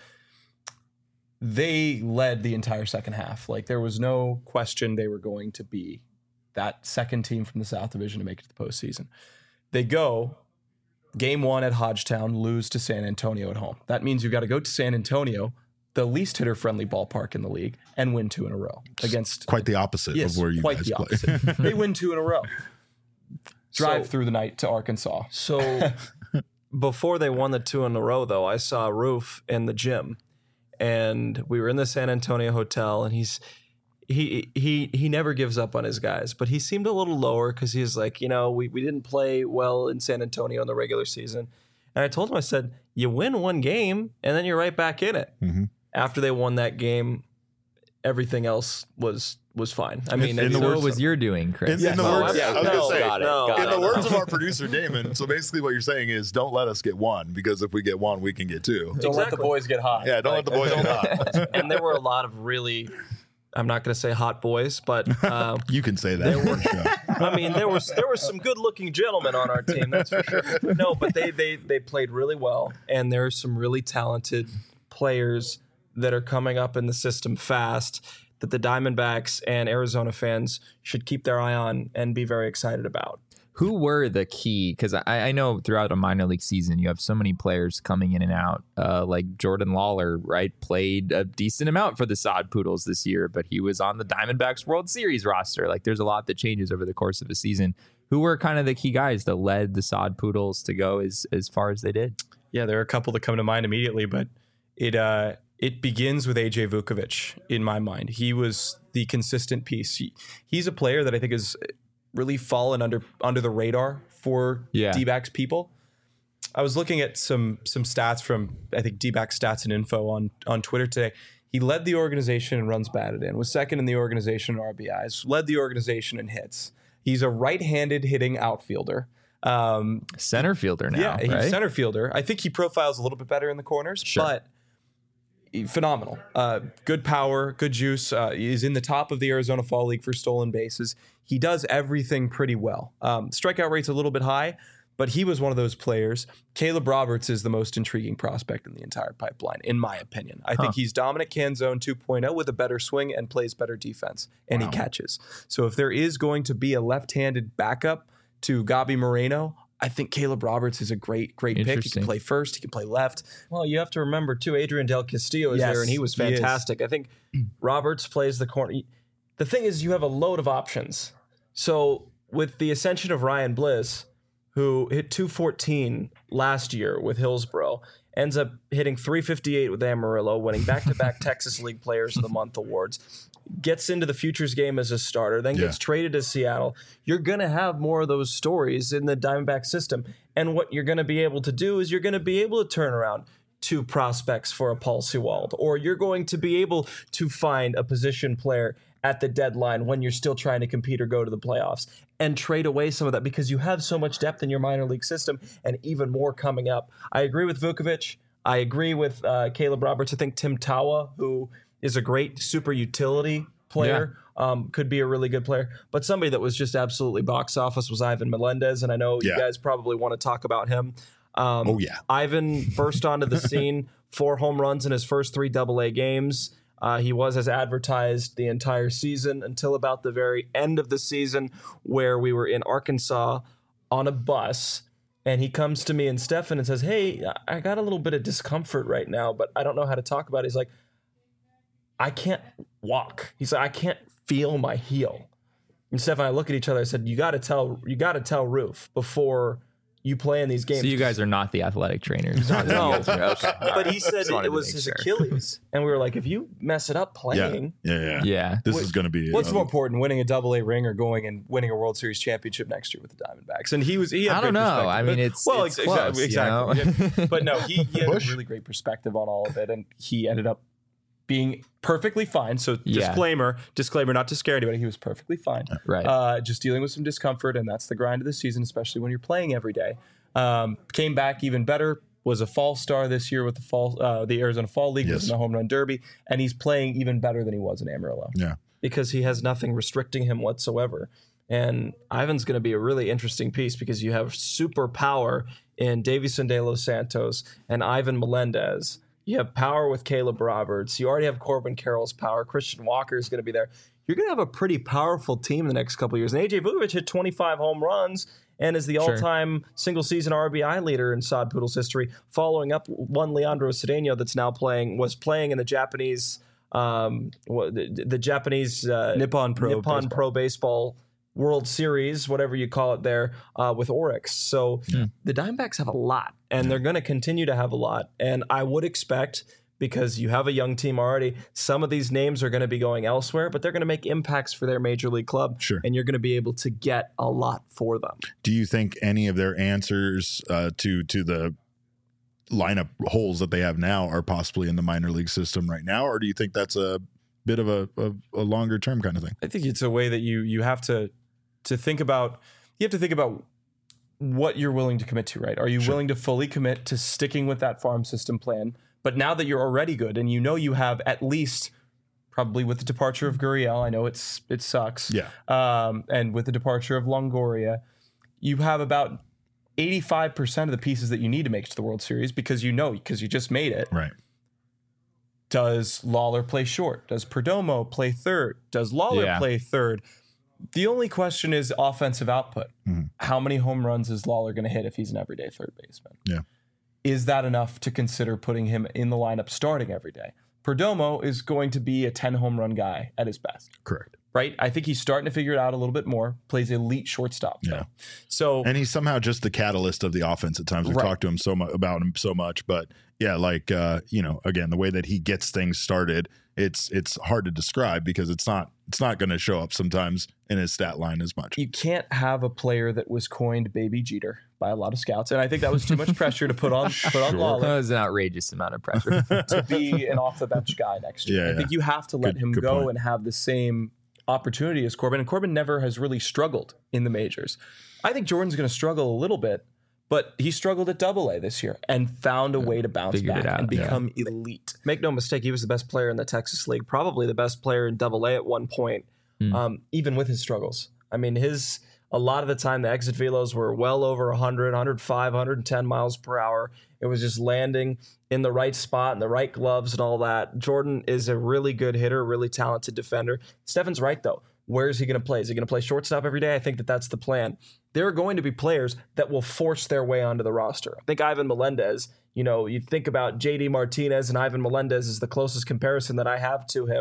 they led the entire second half. Like, there was no question they were going to be that second team from the South Division to make it to the postseason. They go game one at Hodgetown, lose to San Antonio at home. That means you've got to go to San Antonio, the least hitter-friendly ballpark in the league, and win two in a row against Quite the opposite yes, of where you quite guys the play. opposite. They win two in a row. Drive So- through the night to Arkansas. So before they won the two in a row, though, I saw Roof in the gym, and we were in the San Antonio hotel, and he's he he he never gives up on his guys, but he seemed a little lower because he's like, you know, we, we didn't play well in San Antonio in the regular season. And I told him, I said, you win one game, and then you're right back in it. Mhm. After they won that game, everything else was was fine. I mean, in the So words- what was your doing, Chris? In, in the Oh, words, yeah, I was no, gonna say, got it, got in it, the no. words of our producer Damon. So basically, what you're saying is, don't let us get one, because if we get one, we can get two. Don't let the Exactly. boys get hot. Yeah, don't let the boys get hot. and there were a lot of really, I'm not going to say hot boys, but um, You can say that. Yeah. I mean, there was there were some good-looking gentlemen on our team, that's for sure. No, but they they they played really well, and there are some really talented players that are coming up in the system fast that the Diamondbacks and Arizona fans should keep their eye on and be very excited about. Who were the key? Because I, I know throughout a minor league season, you have so many players coming in and out. Uh, like Jordan Lawler, right? Played a decent amount for the Sod Poodles this year, but he was on the Diamondbacks World Series roster. Like, there's a lot that changes over the course of a season. Who were kind of the key guys that led the Sod Poodles to go as as far as they did? Yeah, there are a couple that come to mind immediately, but it uh, it begins with A J Vukovic in my mind. He was the consistent piece. He, he's a player that I think has really fallen under under the radar for Yeah. D-backs people. I was looking at some some stats from, I think, D-backs Stats and Info on on Twitter today. He led the organization in runs batted in, was second in the organization in R B Is, led the organization in hits. He's a right-handed hitting outfielder. Um, Center fielder now, yeah, he's right? center fielder. I think he profiles a little bit better in the corners, Sure. but he- phenomenal. Uh, good power, good juice. Uh, he's in the top of the Arizona Fall League for stolen bases. He does everything pretty well. Um, strikeout rate's a little bit high, but he was one of those players. Caleb Roberts is the most intriguing prospect in the entire pipeline, in my opinion. I Huh. think he's Dominic Canzone two point oh with a better swing and plays better defense, and Wow. he catches. So if there is going to be a left-handed backup to Gabi Moreno, I think Caleb Roberts is a great, great pick. He Interesting. can play first. He can play left. Well, you have to remember, too, Adrian Del Castillo is Yes, there, and he was he is. fantastic. I think Roberts plays the corner. the thing is, you have a load of options. So with the ascension of Ryan Bliss, who hit two fourteen last year with Hillsborough, ends up hitting three fifty-eight with Amarillo, winning back-to-back Texas League Players of the Month awards, gets into the Futures game as a starter, then gets yeah. traded to Seattle. You're going to have more of those stories in the Diamondback system. And what you're going to be able to do is you're going to be able to turn around two prospects for a Paul Sewald, or you're going to be able to find a position player at the deadline when you're still trying to compete or go to the playoffs, and trade away some of that because you have so much depth in your minor league system and even more coming up. I agree with Vukovich. I agree with uh, Caleb Roberts. I think Tim Tawa, who is a great super utility player, yeah. um, could be a really good player. But somebody that was just absolutely box office was Ivan Melendez, and I know yeah. you guys probably want to talk about him. Um, oh, yeah. Ivan burst onto the scene, four home runs in his first three double A games. Uh, he was as advertised the entire season until about the very end of the season, where we were in Arkansas on a bus, and he comes to me and Stefan and says, "Hey, I got a little bit of discomfort right now, but I don't know how to talk about it." He's like, "I can't walk." He's like, "I can't feel my heel." And Stefan and I look at each other. I said, "You got to tell, you got to tell Roof before you play in these games." So you guys are not the athletic trainers. No, okay. But he said it was his sure. Achilles, and we were like, if you mess it up playing, yeah, yeah, yeah. yeah. this what, is going to be. What's um, more important, winning a Double A ring or going and winning a World Series championship next year with the Diamondbacks? And he was. He had I don't know. I mean, it's well, it's exactly, close, exactly. You know? Yeah. But no, he, he had Push. a really great perspective on all of it, and he ended up being perfectly fine. So Yeah. disclaimer, disclaimer, not to scare anybody. He was perfectly fine. Right. Uh, just dealing with some discomfort, and that's the grind of the season, especially when you're playing every day. Um, came back even better. Was a fall star this year with the fall, uh, the Arizona Fall League, Yes. was in the Home Run Derby, and he's playing even better than he was in Amarillo. Yeah. because he has nothing restricting him whatsoever. And Ivan's going to be a really interesting piece because you have super power in Davison De Los Santos and Ivan Melendez. You have power with Caleb Roberts. You already have Corbin Carroll's power. Christian Walker is going to be there. You're going to have a pretty powerful team the next couple of years. And A J Vukovich hit twenty-five home runs and is the Sure. all-time single-season R B I leader in Sod Poodles history, following up one Leandro Cedeno that's now playing, was playing in the Japanese, um, what, the, the Japanese uh, Nippon Pro Nippon Baseball. Pro Baseball World Series, whatever you call it there, uh, with Oryx. So Yeah. the Diamondbacks have a lot, and they're going to continue to have a lot. And I would expect, because you have a young team already, some of these names are going to be going elsewhere, but they're going to make impacts for their major league club. Sure. And you're going to be able to get a lot for them. Do you think any of their answers uh, to to the lineup holes that they have now are possibly in the minor league system right now, or do you think that's a bit of a, a, a longer term kind of thing? I think it's a way that you you have to to think about. You have to think about what you're willing to commit to, right? Are you Sure. willing to fully commit to sticking with that farm system plan? But now that you're already good and you know you have at least, probably with the departure of Gurriel, I know it's it sucks. Yeah. Um, and with the departure of Longoria, you have about eighty-five percent of the pieces that you need to make it to the World Series because you know, because you just made it. Right. Does Lawler play short? Does Perdomo play third? Does Lawler Yeah. play third? The only question is offensive output. Mhm. How many home runs is Lawler going to hit if he's an everyday third baseman? Yeah. Is that enough to consider putting him in the lineup starting every day? Perdomo is going to be a ten home run guy at his best, Correct. right? I think he's starting to figure it out a little bit more. Plays elite shortstop. Yeah. though. So And he's somehow just the catalyst of the offense at times. We've Right. talked to him so much about him so much, but yeah, like uh, you know, again, the way that he gets things started, it's it's hard to describe because it's not it's not going to show up sometimes in his stat line as much. you can't have a player that was coined Baby Jeter by a lot of scouts, and I think that was too much pressure to put on put on Sure. Lawler. That was an outrageous amount of pressure. to be an off the bench guy next year. Yeah, I think yeah. you have to let Good- him good go point. and have the same opportunity as Corbin. And Corbin never has really struggled in the majors. I think Jordan's going to struggle a little bit, but he struggled at Double A this year and found a way to bounce Figured it back out, and yeah. become elite. Make no mistake, he was the best player in the Texas League, probably the best player in Double A at one point, Hmm. um, even with his struggles. I mean, his a lot of the time the exit velos were well over one hundred, one oh five, one ten miles per hour. It was just landing in the right spot and the right gloves and all that. Jordan is a really good hitter, really talented defender. Stefan's right, though. Where is he going to play? Is he going to play shortstop every day? I think that that's the plan. There are going to be players that will force their way onto the roster. I think Ivan Melendez, you know, you think about J D Martinez and Ivan Melendez is the closest comparison that I have to him.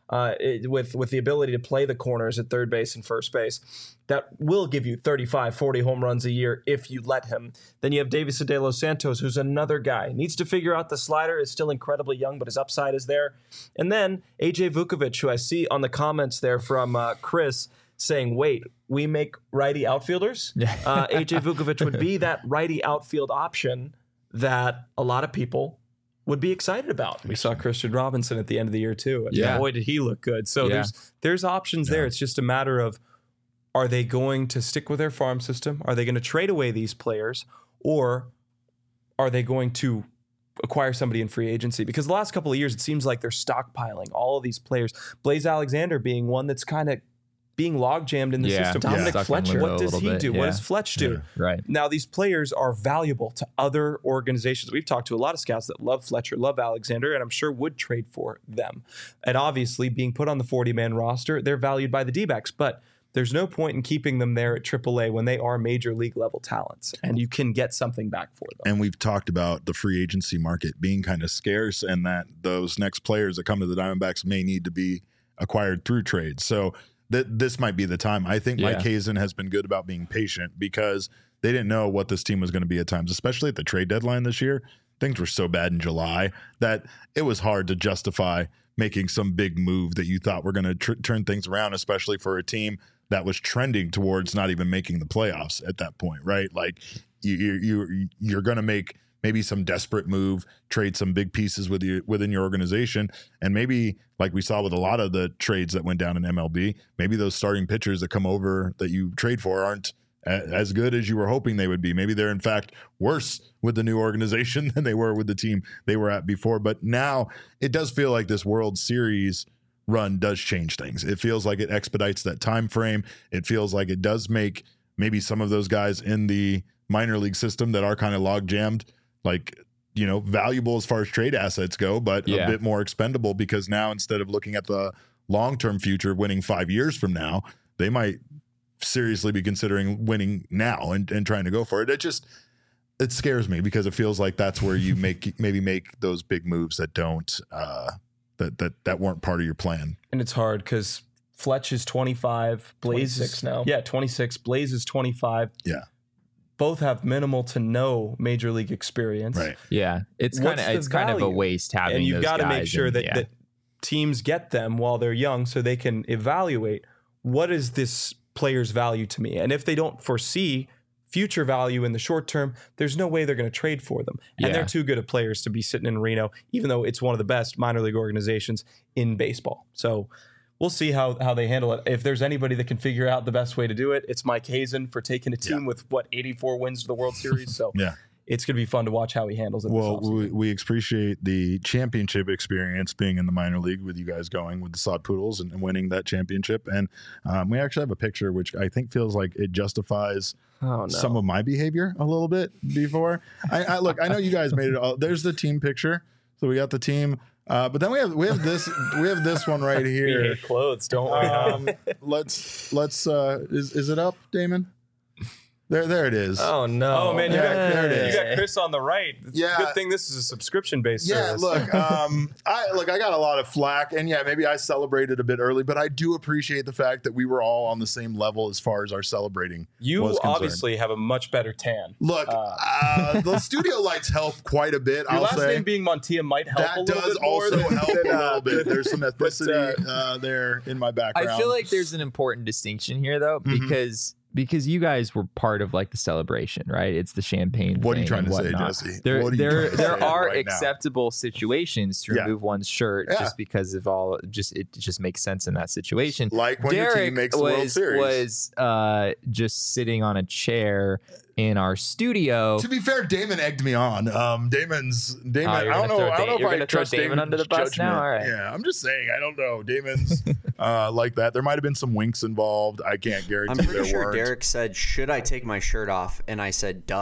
uh, it, with with the ability to play the corners at third base and first base, that will give you thirty-five, forty home runs a year if you let him. Then you have Davison De Los Santos, who's another guy. Needs to figure out the slider, is still incredibly young, but his upside is there. And then A J Vukovic, who I see on the comments there from uh, Chris, saying, wait, we make righty outfielders? Yeah. uh, A J Vukovic would be that righty outfield option that a lot of people would be excited about. We saw Christian Robinson at the end of the year too. And Yeah. boy, did he look good. So Yeah. there's there's options there. Yeah. It's just a matter of, are they going to stick with their farm system? Are they going to trade away these players? Or are they going to acquire somebody in free agency? Because the last couple of years, it seems like they're stockpiling all of these players. Blaze Alexander being one that's kind of being log jammed in the Yeah. system. Yeah. Dominic Stuck in Fletcher, limbo what a does little he bit, do? What yeah. does Fletch do? Yeah. Right. Now, these players are valuable to other organizations. We've talked to a lot of scouts that love Fletcher, love Alexander, and I'm sure would trade for them. And obviously, being put on the forty-man roster, they're valued by the D-backs. But there's no point in keeping them there at triple A when they are major league level talents, and you can get something back for them. And we've talked about the free agency market being kind of scarce, and that those next players that come to the Diamondbacks may need to be acquired through trades. So th- this might be the time. I think Yeah. Mike Hazen has been good about being patient because they didn't know what this team was going to be at times, especially at the trade deadline this year. Things were so bad in July that it was hard to justify making some big move that you thought were going to tr- turn things around, especially for a team that was trending towards not even making the playoffs at that point, right? Like you, you, you you're going to make maybe some desperate move, trade some big pieces with you within your organization, and maybe like we saw with a lot of the trades that went down in M L B, maybe those starting pitchers that come over that you trade for aren't a- as good as you were hoping they would be. Maybe they're in fact worse with the new organization than they were with the team they were at before. But now it does feel like this World Series run does change things. It feels like it expedites that time frame. It feels like it does make maybe some of those guys in the minor league system that are kind of log jammed, like, you know, valuable as far as trade assets go, but Yeah. a bit more expendable because now instead of looking at the long-term future of winning five years from now, they might seriously be considering winning now and, and trying to go for it. It just, it scares me because it feels like that's where you make maybe make those big moves that don't, uh, that that that weren't part of your plan. And it's hard because Fletch is twenty-five, Blaze twenty-six is now. Yeah, twenty-six. Blaze is twenty-five. Yeah. Both have minimal to no major league experience. Right. Yeah. It's What's kind of the it's kind of a value? waste having And you've those got to make guys sure and- that, yeah. that teams get them while they're young so they can evaluate what is this player's value to me. And if they don't foresee future value in the short term, there's no way they're going to trade for them. And Yeah. they're too good of players to be sitting in Reno, even though it's one of the best minor league organizations in baseball. So we'll see how, how they handle it. If there's anybody that can figure out the best way to do it, it's Mike Hazen for taking a team Yeah. with, what, eighty-four wins to the World Series. So Yeah. it's going to be fun to watch how he handles it. this Well, offseason. we, we appreciate the championship experience being in the minor league with you guys going with the Sod Poodles and, and winning that championship. And um, we actually have a picture which I think feels like it justifies Oh, no. some of my behavior a little bit before. I, I look, I know you guys made it all. There's the team picture. So we got the team. Uh, but then we have we have this we have this one right We here. hate clothes, don't we? Um, let's let's uh, is is it up, Damon? There there it is. Oh, no. Oh man, you, Yeah, got, there it you is. got Chris on the right. It's Yeah. a good thing this is a subscription based Yeah, service. look, um, I look, I got a lot of flack, and yeah, maybe I celebrated a bit early, but I do appreciate the fact that we were all on the same level as far as our celebrating. you was concerned. obviously have a much better tan. Look, Uh, uh, the studio lights help quite a bit. Your I'll last say name being Montilla might help a that little does bit more. also than- help a than, uh, little bit. There's some but, ethnicity uh, uh, there in my background. I feel like there's an important distinction here though, Mhm. because because you guys were part of like the celebration, right? It's the champagne. What are you thing trying and to say, whatnot. Jesse? There, What are you there, trying to there say are right now? acceptable situations to Yeah. remove one's shirt Yeah. just because of all. Just it just makes sense in that situation. like when your Derek team makes the was World Series. was uh, just sitting on a chair in our studio. To be fair, Damon egged me on. Um, Damon's Damon. Oh, I you're don't gonna know. throw I don't Da- know if you're I gonna throw trust Damon Damon's under the bus now? judgment. All right. Yeah, I'm just saying. I don't know. Damon's uh, like that. There might have been some winks involved. I can't guarantee I'm pretty there sure weren't. Derek said, "Should I take my shirt off?" And I said, "Duh."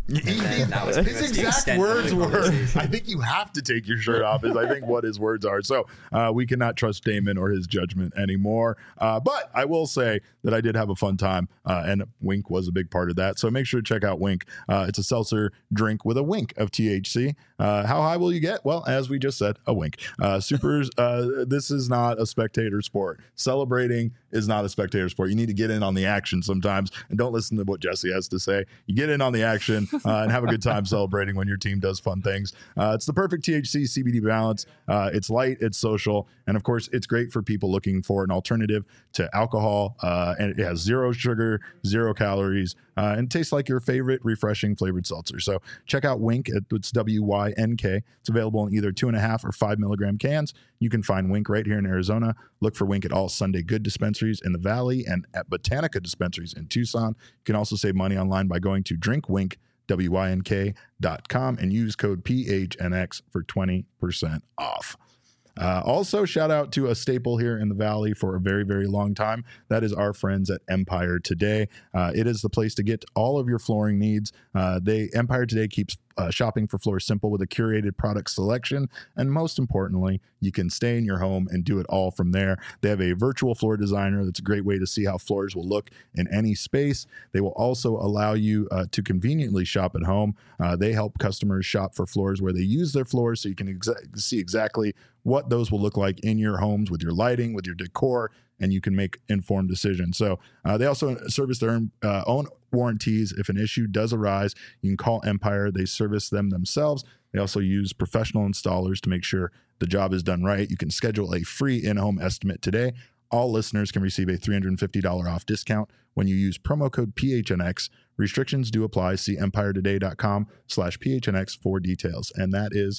And then that was pretty His much the exact extent of words the were, conversation. I think you have to take your shirt off, is I think what his words are. So uh, we cannot trust Damon or his judgment anymore. Uh, but I will say that I did have a fun time, uh, and Wink was a big part of that. So make sure to check out Wink. Uh, it's a seltzer drink with a wink of T H C. Uh, how high will you get? Well, as we just said, a wink. Uh, supers, uh, this is not a spectator sport. Celebrating is not a spectator sport. You need to get in on the action sometimes, and don't listen to what Jesse has to say. You get in on the action uh, and have a good time celebrating when your team does fun things. Uh, it's the perfect T H C C B D balance. Uh, it's light, it's social, and of course, it's great for people looking for an alternative to alcohol. Uh, and it has zero sugar, zero calories, uh, and tastes like your favorite refreshing flavored seltzer. So check out Wink. It's W Y N K. It's available in either two and a half or five milligram cans. You can find Wink right here in Arizona. Look for Wink at all Sunday Good dispensaries in the Valley and at Botanica dispensaries in Tucson. You can also save money online by going to drinkwink, W Y N K dot com and use code P H N X for twenty percent off. Uh, also, shout out to a staple here in the Valley for a very, very long time. That is our friends at Empire Today. Uh, it is the place to get all of your flooring needs. Uh, they Empire Today keeps uh, shopping for floors simple with a curated product selection. And most importantly, you can stay in your home and do it all from there. They have a virtual floor designer. That's a great way to see how floors will look in any space. They will also allow you uh, to conveniently shop at home. Uh, they help customers shop for floors where they use their floors, so you can exa- see exactly what those will look like in your homes with your lighting, with your decor, and you can make informed decisions. So uh, they also service their own, uh, own warranties. If an issue does arise, you can call Empire. They service them themselves. They also use professional installers to make sure the job is done right. You can schedule a free in-home estimate today. All listeners can receive a three hundred fifty dollars off discount when you use promo code P H N X. Restrictions do apply. See empiretoday.com slash PHNX for details. And that is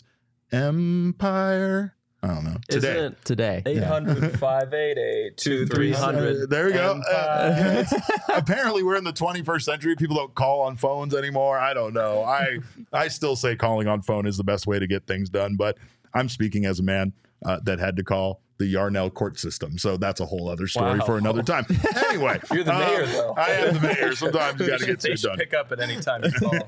Empire... I don't know. Today. Isn't Today. eight hundred, five eight eight, two three hundred. Uh, there we go. Uh, yeah, it's- apparently, we're in the twenty-first century. People don't call on phones anymore. I don't know. I I still say calling on phone is the best way to get things done. But I'm speaking as a man uh, that had to call the Yarnell court system. So that's a whole other story Wow. for another time. Anyway. You're the um, mayor, though. I am the mayor. Sometimes you got to get They shit should done. pick up at any time you call.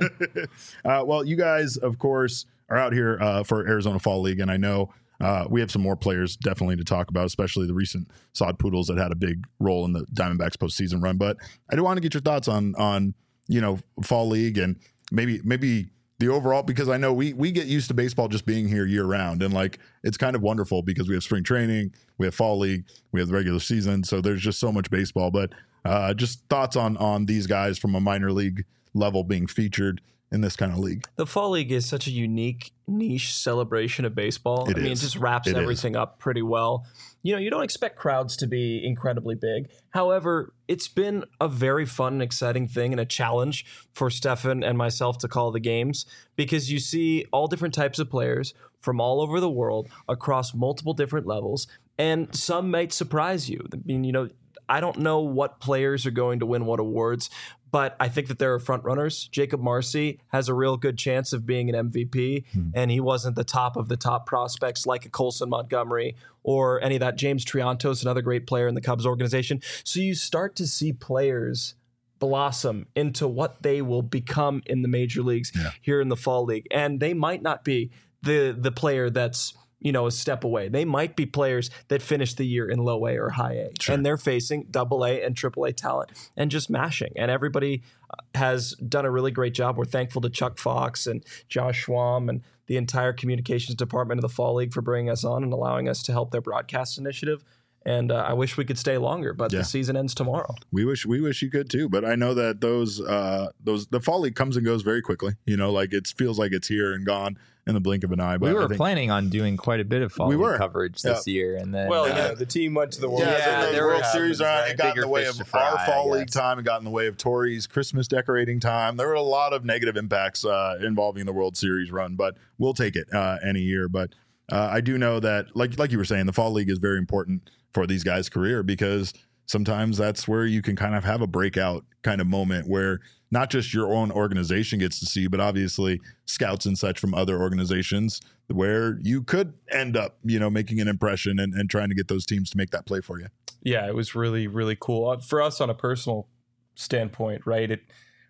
Uh, well, you guys, of course, are out here uh, for Arizona Fall League, and I know uh, we have some more players definitely to talk about, especially the recent Sod Poodles that had a big role in the Diamondbacks postseason run. But I do want to get your thoughts on on you know Fall League and maybe maybe the overall, because I know we we get used to baseball just being here year round, and like it's kind of wonderful because we have spring training, we have Fall League, we have the regular season, so there's just so much baseball. But uh, just thoughts on on these guys from a minor league level being featured in this kind of league. The Fall League is such a unique niche celebration of baseball. It I mean, is. it just wraps It everything up pretty well. You know, you don't expect crowds to be incredibly big. However, it's been a very fun and exciting thing and a challenge for Stefan and myself to call the games, because you see all different types of players from all over the world across multiple different levels, and some might surprise you. I mean, you know, I don't know what players are going to win what awards, but I think that there are front runners. Jacob Marcy has a real good chance of being an M V P, mm-hmm. and he wasn't the top of the top prospects like a Colson Montgomery or any of that. James Triantos, another great player in the Cubs organization. So you start to see players blossom into what they will become in the major leagues yeah. here in the Fall League, and they might not be the the player that's you know, a step away. They might be players that finish the year in low A or high A, sure. and they're facing double A and triple A talent and just mashing. And everybody has done a really great job. We're thankful to Chuck Fox and Josh Schwam and the entire communications department of the Fall League for bringing us on and allowing us to help their broadcast initiative. And uh, I wish we could stay longer, but yeah. the season ends tomorrow. We wish we wish you could too, but I know that those uh, those the Fall League comes and goes very quickly. You know, like it feels like it's here and gone in the blink of an eye. But we were I think, planning on doing quite a bit of Fall we League were. coverage this yeah. year, and then well, uh, you know, the team went to the World. Yeah, yeah the there World were Series. Right? It got in the way of fry, our Fall League time. It got in the way of Tori's Christmas decorating time. There were a lot of negative impacts uh, involving the World Series run, but we'll take it uh, any year. But uh, I do know that, like like you were saying, the Fall League is very important for these guys' career, because sometimes that's where you can kind of have a breakout kind of moment where not just your own organization gets to see, but obviously scouts and such from other organizations, where you could end up, you know, making an impression and, and trying to get those teams to make that play for you. Yeah, it was really, really cool. For us on a personal standpoint, right? It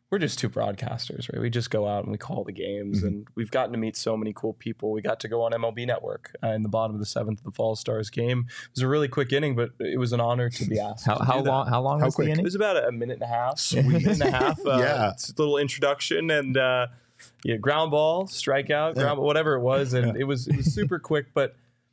we're just two broadcasters, right? We just go out and we call the games, Mm-hmm. and we've gotten to meet so many cool people. We got to go on M L B Network uh, in the bottom of the seventh of the Fall Stars game. It was a really quick inning, but it was an honor to be asked. How to how do that. long how long How was quick? the It inning? was about a minute and a half. Sweet. A minute and a half. Uh, Yeah. It's a little introduction and uh, yeah, ground ball, strikeout, Yeah. ground, whatever it was, and Yeah. it was it was super quick, but.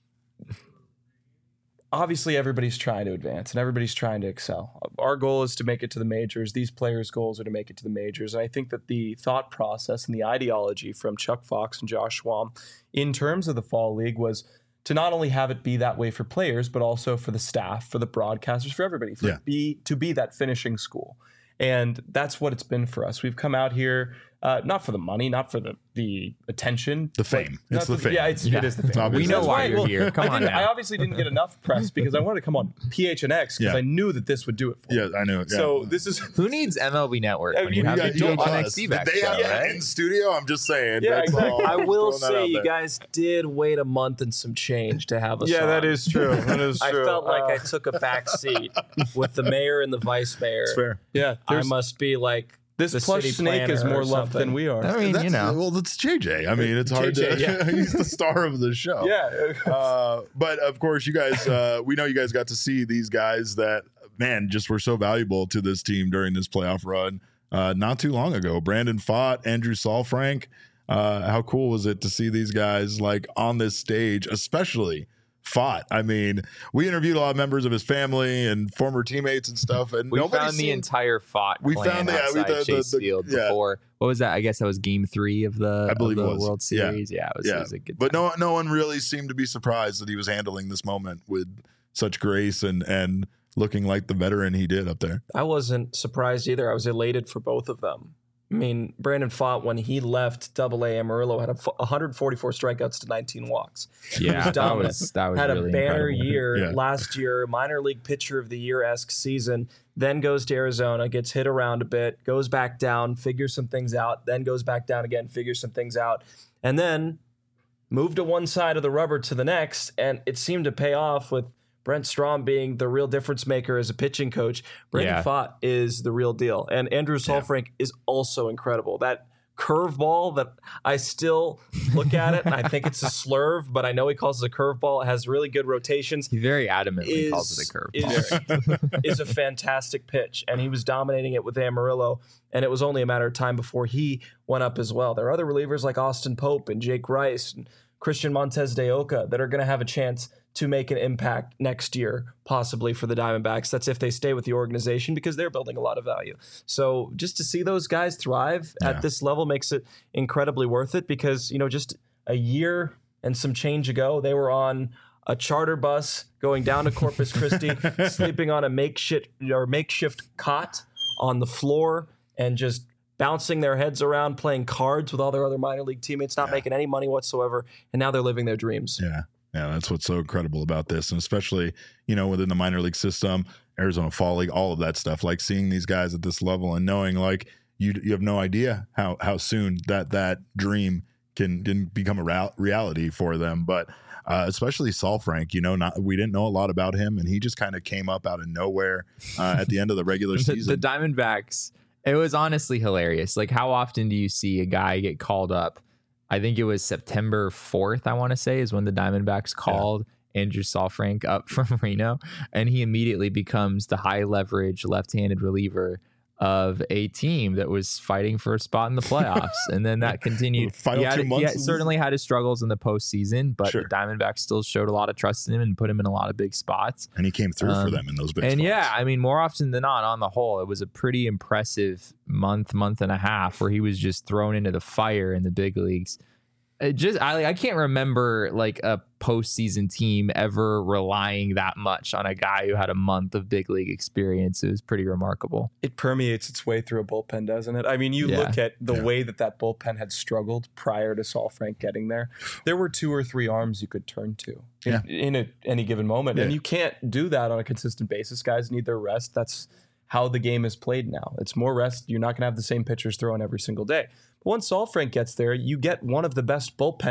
Obviously, everybody's trying to advance and everybody's trying to excel. Our goal is to make it to the majors. These players' goals are to make it to the majors. And I think that the thought process and the ideology from Chuck Fox and Josh Schwam in terms of the Fall League was to not only have it be that way for players, but also for the staff, for the broadcasters, for everybody, for Yeah. it be, to be that finishing school. And that's what it's been for us. We've come out here, uh, not for the money, not for the, the attention. The but fame. not It's the for fame. Yeah, it's, Yeah. it is the fame. It's obvious. We know That's why right. you're Well, here. Come I on didn't- now. I obviously didn't get enough press because I wanted to come on P H N X because Yeah. I knew that this would do it for me. Yeah, I know. Yeah. So this is Who needs M L B Network I when mean, you you have got- the you P H got N us. X D-backs They show, have that right? in studio. I'm just saying. Yeah, That's exactly. all. I I'm will throwing that say out you there. guys did wait a month and some change to have us yeah, on. that is true. That is I true. felt like Uh, I took a back seat with the mayor and the vice mayor. It's fair. yeah. I there's- must be like this the plush city snake is planner more or loved something. than we are. I mean, That's, you know. Well, that's J J. I mean, it's hard J J, to. yeah. He's the star of the show. Yeah. Uh, but of course, you guys, uh, we know you guys got to see these guys that, man, just were so valuable to this team during this playoff run uh, not too long ago. Brandon Pfaadt, Andrew Saalfrank. Uh, how cool was it to see these guys like on this stage, especially Pfaadt? I mean, we interviewed a lot of members of his family and former teammates and stuff, and We nobody found the seemed- entire Fought We clan found the- yeah, we- outside the- the- Chase the- Field yeah. before. What was that? I guess that was Game Three of the, I believe of it the was. World Yeah. Series. Yeah, it was, Yeah. it was a good. But time. no, no one really seemed to be surprised that he was handling this moment with such grace and and looking like the veteran he did up there. I wasn't surprised either. I was elated for both of them. I mean, Brandon Pfaadt, when he left Double A Amarillo, had a f- one hundred forty-four strikeouts to nineteen walks. yeah, that dominant. was that was had really a banner incredible. year Yeah. last year, minor league pitcher of the year esque season. Then goes to Arizona, gets hit around a bit, goes back down, figures some things out, then goes back down again, figures some things out, and then moved to one side of the rubber to the next, and it seemed to pay off with Brent Strom being the real difference maker as a pitching coach. Brandon Yeah. Pfaadt is the real deal, and Andrew Saalfrank is also incredible. That curveball that I still look at it and I think it's a slurve, but I know he calls it a curveball. It has really good rotations. He very adamantly Is, calls it a curve. is, is a fantastic pitch, and he was dominating it with Amarillo, and it was only a matter of time before he went up as well. There are other relievers like Austin Pope and Jake Rice and Christian Montez de Oca that are going to have a chance to make an impact next year, possibly for the Diamondbacks. That's if they stay with the organization, because they're building a lot of value. So just to see those guys thrive Yeah. at this level makes it incredibly worth it, because, you know, just a year and some change ago, they were on a charter bus going down to Corpus Christi, sleeping on a makeshift or makeshift cot on the floor and just bouncing their heads around, playing cards with all their other minor league teammates, not Yeah. making any money whatsoever. And now they're living their dreams. Yeah. Yeah, that's what's so incredible about this. And especially, you know, within the minor league system, Arizona Fall League, all of that stuff, like seeing these guys at this level and knowing like you you have no idea how how soon that that dream can, can become a rea- reality for them. But uh, especially Saalfrank, you know, not we didn't know a lot about him, and he just kind of came up out of nowhere uh, at the end of the regular the, season. the Diamondbacks, it was honestly hilarious. Like, how often do you see a guy get called up? I think it was September fourth, I want to say, is when the Diamondbacks called Andrew Saalfrank up from Reno, and he immediately becomes the high leverage left-handed reliever of a team that was fighting for a spot in the playoffs. And then that continued. Final he had, two he months had- of the certainly had his struggles in the postseason, but Sure. the Diamondbacks still showed a lot of trust in him and put him in a lot of big spots. and he came through for Um, them in those big And spots. yeah, I mean, more often than not, on the whole, it was a pretty impressive month, month and a half where he was just thrown into the fire in the big leagues. It just, I, I can't remember like a postseason team ever relying that much on a guy who had a month of big league experience. It was pretty remarkable. It permeates its way through a bullpen, doesn't it? I mean, you Yeah. look at the Yeah. way that that bullpen had struggled prior to Saalfrank getting there. There were two or three arms you could turn to in, Yeah. in a, any given moment. And Yeah. you can't do that on a consistent basis. Guys need their rest. That's how the game is played now. It's more rest. You're not going to have the same pitchers throwing every single day. But once Saalfrank gets there, you get one of the best bullpens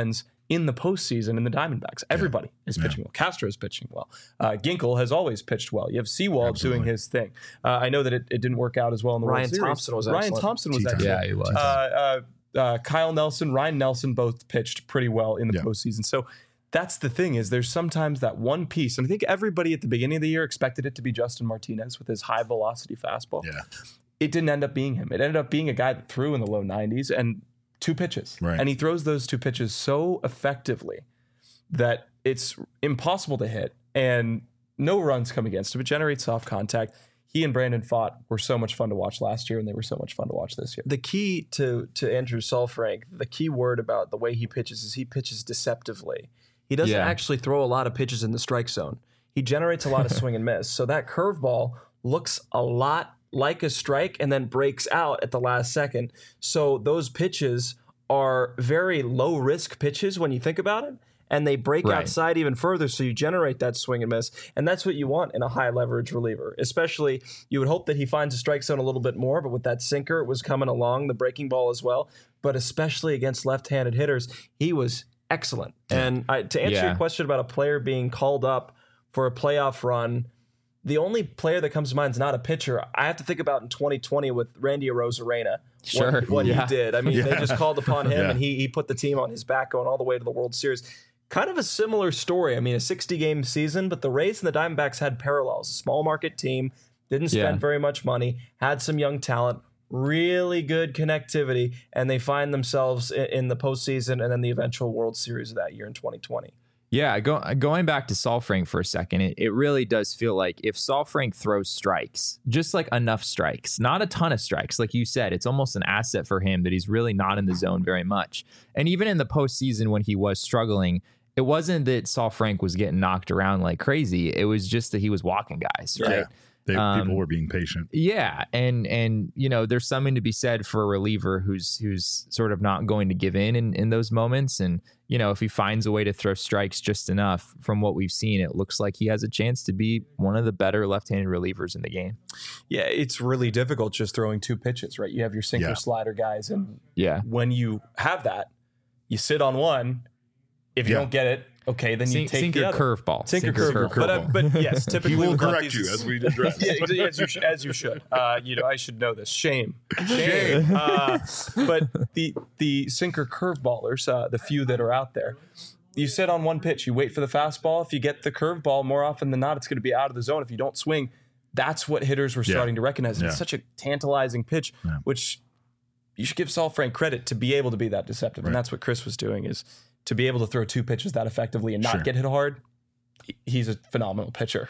in the postseason in the Diamondbacks. Everybody yeah. is pitching yeah. well. Castro is pitching well. Uh, Ginkel has always pitched well. You have Sewald Absolutely. doing his thing. Uh, I know that it, it didn't work out as well in the Ryan World Series. Thompson was Ryan excellent. Thompson was T-time. excellent. Yeah, he was. Uh, uh, uh, Kyle Nelson, Ryan Nelson both pitched pretty well in the yeah. postseason. So that's the thing is there's sometimes that one piece. And I think everybody at the beginning of the year expected it to be Justin Martinez with his high velocity fastball. Yeah. It didn't end up being him. It ended up being a guy that threw in the low nineties and two pitches. Right. And he throws those two pitches so effectively that it's impossible to hit and no runs come against him. It generates soft contact. He and Brandon Pfaadt were so much fun to watch last year, and they were so much fun to watch this year. The key to to Andrew Saalfrank, the key word about the way he pitches is he pitches deceptively. He doesn't Yeah. actually throw a lot of pitches in the strike zone. He generates a lot of swing and miss. So that curveball looks a lot like a strike and then breaks out at the last second. So those pitches are very low risk pitches when you think about it. And they break Right. outside even further, so you generate that swing and miss. And that's what you want in a high leverage reliever. Especially, you would hope that he finds a strike zone a little bit more, but with that sinker, it was coming along, the breaking ball as well. But especially against left-handed hitters, he was excellent. And I, to answer Yeah. your question about a player being called up for a playoff run, the only player that comes to mind is not a pitcher. I have to think about in twenty twenty with Randy Arozarena. Sure. What, what Yeah. he did. I mean, Yeah. they just called upon him, Yeah. and he he put the team on his back going all the way to the World Series. Kind of a similar story. I mean, a sixty-game season, but the Rays and the Diamondbacks had parallels. A small market team, didn't spend Yeah. very much money, had some young talent, really good connectivity, and they find themselves in, in the postseason and then the eventual World Series of that year in twenty twenty. Yeah, go, going back to Saalfrank for a second, it, it really does feel like if Saalfrank throws strikes, just like enough strikes, not a ton of strikes, like you said, it's almost an asset for him that he's really not in the zone very much. And even in the postseason when he was struggling, it wasn't that Saalfrank was getting knocked around like crazy. It was just that he was walking guys, right? Yeah. They, Um, people were being patient. Yeah, and and you know, there's something to be said for a reliever who's who's sort of not going to give in, in in those moments. And you know, if he finds a way to throw strikes just enough, from what we've seen, it looks like he has a chance to be one of the better left-handed relievers in the game. Yeah, it's really difficult just throwing two pitches, right? You have your sinker Yeah. slider guys, and Yeah, when you have that, you sit on one. If you Yeah. don't get it, okay, then you Sink, take sinker the other. curveball, Sinker, curveball. But, uh, but yes, typically He will with correct lefties, you as we address. yeah, ex- as you, sh- as you should. Uh, you know, I should know this. Shame, shame. Uh, but the the sinker curveballers, uh, the few that are out there, you sit on one pitch. You wait for the fastball. If you get the curveball, more often than not, it's going to be out of the zone. If you don't swing, that's what hitters were Yeah. starting to recognize. And It's Yeah. such a tantalizing pitch, Yeah. which you should give Saalfrank credit to be able to be that deceptive. Right. And that's what Chris was doing, is to be able to throw two pitches that effectively and not Sure. get hit hard. he- He's a phenomenal pitcher.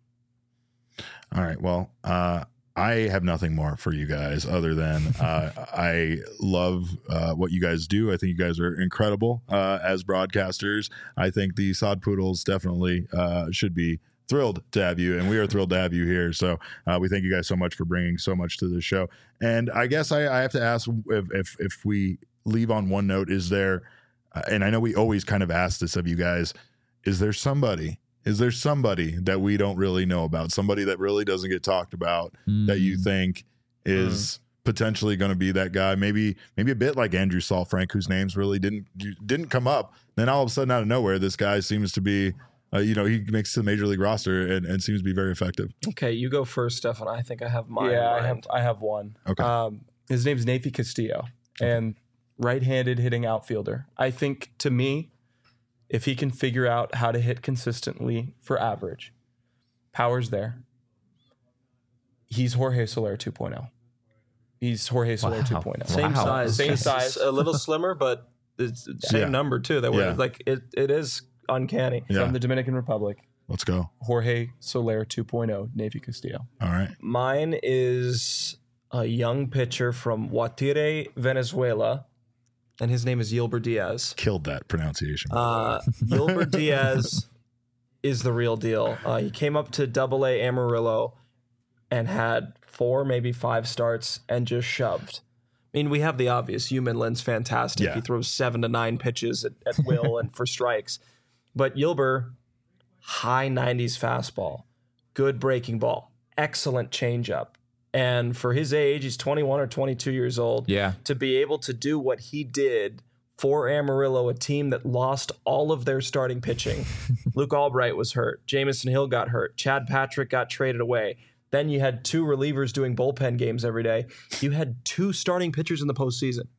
All right. Well, uh, I have nothing more for you guys other than uh, I love uh, what you guys do. I think you guys are incredible uh, as broadcasters. I think the Sod Poodles definitely uh, should be thrilled to have you, and we are thrilled to have you here. So uh, we thank you guys so much for bringing so much to the show. And I guess I, I have to ask if, if if we leave on one note, is there, uh, and I know we always kind of ask this of you guys, is there somebody? Is there somebody that we don't really know about? Somebody that really doesn't get talked about that you think is potentially going to be that guy? Maybe, maybe a bit like Andrew Saalfrank, whose names really didn't didn't come up. Then all of a sudden, out of nowhere, this guy seems to be, uh, you know, he makes the major league roster and, and seems to be very effective. Okay, you go first, Stefan. I think I have mine. yeah, in I have mind. I have one. Okay. Um, his name's Nafi Castillo, and right-handed hitting outfielder. I think, to me, if he can figure out how to hit consistently for average, power's there. He's Jorge Soler two point oh. He's Jorge Soler Wow. two point oh. Same Wow. size, Same just size. a little slimmer, but it's the same Yeah. number too. That Yeah. was like it. It is uncanny. Yeah. From the Dominican Republic, Let's go. Jorge Soler two point oh, Nafi Castillo. All right. Mine is a young pitcher from Guatire, Venezuela, and his name is Yilber Diaz. Killed that pronunciation. Uh, Yilber Diaz is the real deal. Uh, he came up to Double A Amarillo and had four, maybe five starts and just shoved. I mean, we have the obvious. Hugh Midland's fantastic. Yeah. He throws seven to nine pitches at, at will and for strikes. But Yilber, high nineties fastball, good breaking ball, excellent changeup. And for his age, he's twenty-one or twenty-two years old. Yeah. To be able to do what he did for Amarillo, a team that lost all of their starting pitching. Luke Albright was hurt. Jamison Hill got hurt. Chad Patrick got traded away. Then you had two relievers doing bullpen games every day. You had two starting pitchers in the postseason.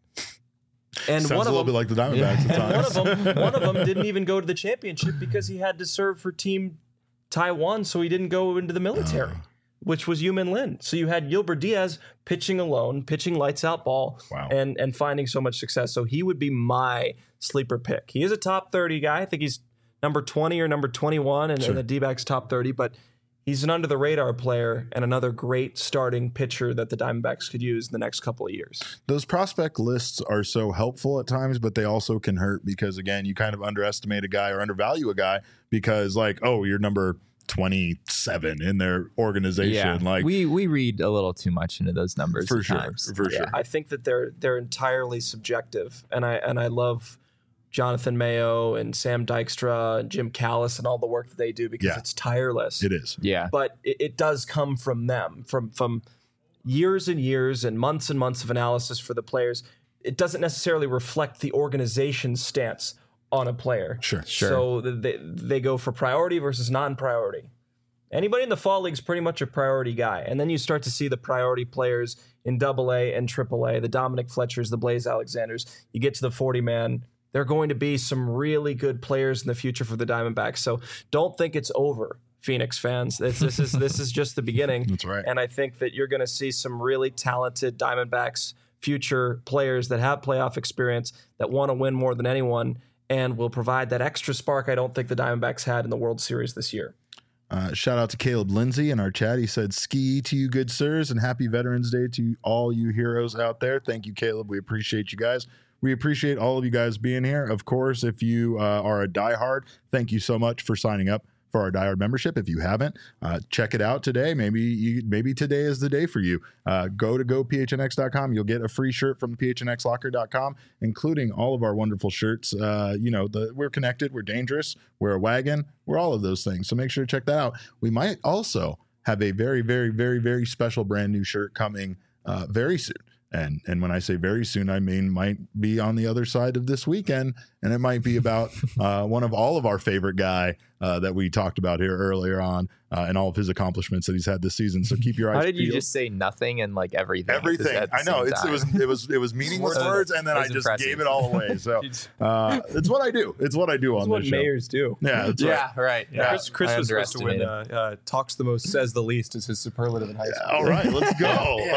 And Sounds one a of little them, bit like the Diamondbacks at one times. of them, one of them didn't even go to the championship because he had to serve for Team Taiwan, so he didn't go into the military, Oh. which was Yumin Lin. So you had Gilbert Diaz pitching alone, pitching lights out ball, Wow. and and finding so much success. So he would be my sleeper pick. He is a top thirty guy. I think he's number twenty or number twenty-one in, Sure. in the D-backs top thirty, but he's an under-the-radar player and another great starting pitcher that the Diamondbacks could use in the next couple of years. Those prospect lists are so helpful at times, but they also can hurt because, again, you kind of underestimate a guy or undervalue a guy because, like, oh, you're number twenty-seven in their organization. Yeah, Like, we we read a little too much into those numbers for at sure, times. for sure. I think that they're they're entirely subjective, and I and I love Jonathan Mayo and Sam Dykstra and Jim Callis and all the work that they do because Yeah. it's tireless. It is. Yeah, But it, it does come from them, from from years and years and months and months of analysis for the players. It doesn't necessarily reflect the organization's stance on a player. Sure. Sure. So they they go for priority versus non-priority. Anybody in the fall league is pretty much a priority guy. And then you start to see the priority players in double A and triple A, the Dominic Fletchers, the Blaze Alexanders. You get to the forty man. There are going to be some really good players in the future for the Diamondbacks. So don't think it's over, Phoenix fans. This, this is this is just the beginning. That's right. And I think that you're going to see some really talented Diamondbacks future players that have playoff experience that want to win more than anyone and will provide that extra spark I don't think the Diamondbacks had in the World Series this year. Uh, shout out to Caleb Lindsay in our chat. He said, ski to you, good sirs, and happy Veterans Day to all you heroes out there. Thank you, Caleb. We appreciate you guys. We appreciate all of you guys being here. Of course, if you uh, are a diehard, thank you so much for signing up for our diehard membership. If you haven't, uh, check it out today. Maybe you, maybe today is the day for you. Uh, go to go P H N X dot com. You'll get a free shirt from P H N X locker dot com, including all of our wonderful shirts. Uh, you know, the we're connected, we're dangerous, we're a wagon, we're all of those things. So make sure to check that out. We might also have a very, very, very, very special brand new shirt coming uh, very soon. And and when I say very soon, I mean might be on the other side of this weekend, and it might be about uh, one of all of our favorite guy uh, that we talked about here earlier on, uh, and all of his accomplishments that he's had this season. So keep your eyes. how did you peeled. just say nothing and like everything? at the- Everything. at the I know same it's, it time? was it was it was meaningless That was- words, and then that I was just impressive. gave it all away. So uh, it's what I do. It's what I do That's on what this show. mayors do. Yeah, that's right. Yeah, right. Yeah, Chris, Chris I was supposed to win. underestimated. Uh, uh, talks the most, says the least is his superlative in high school. All right, let's go.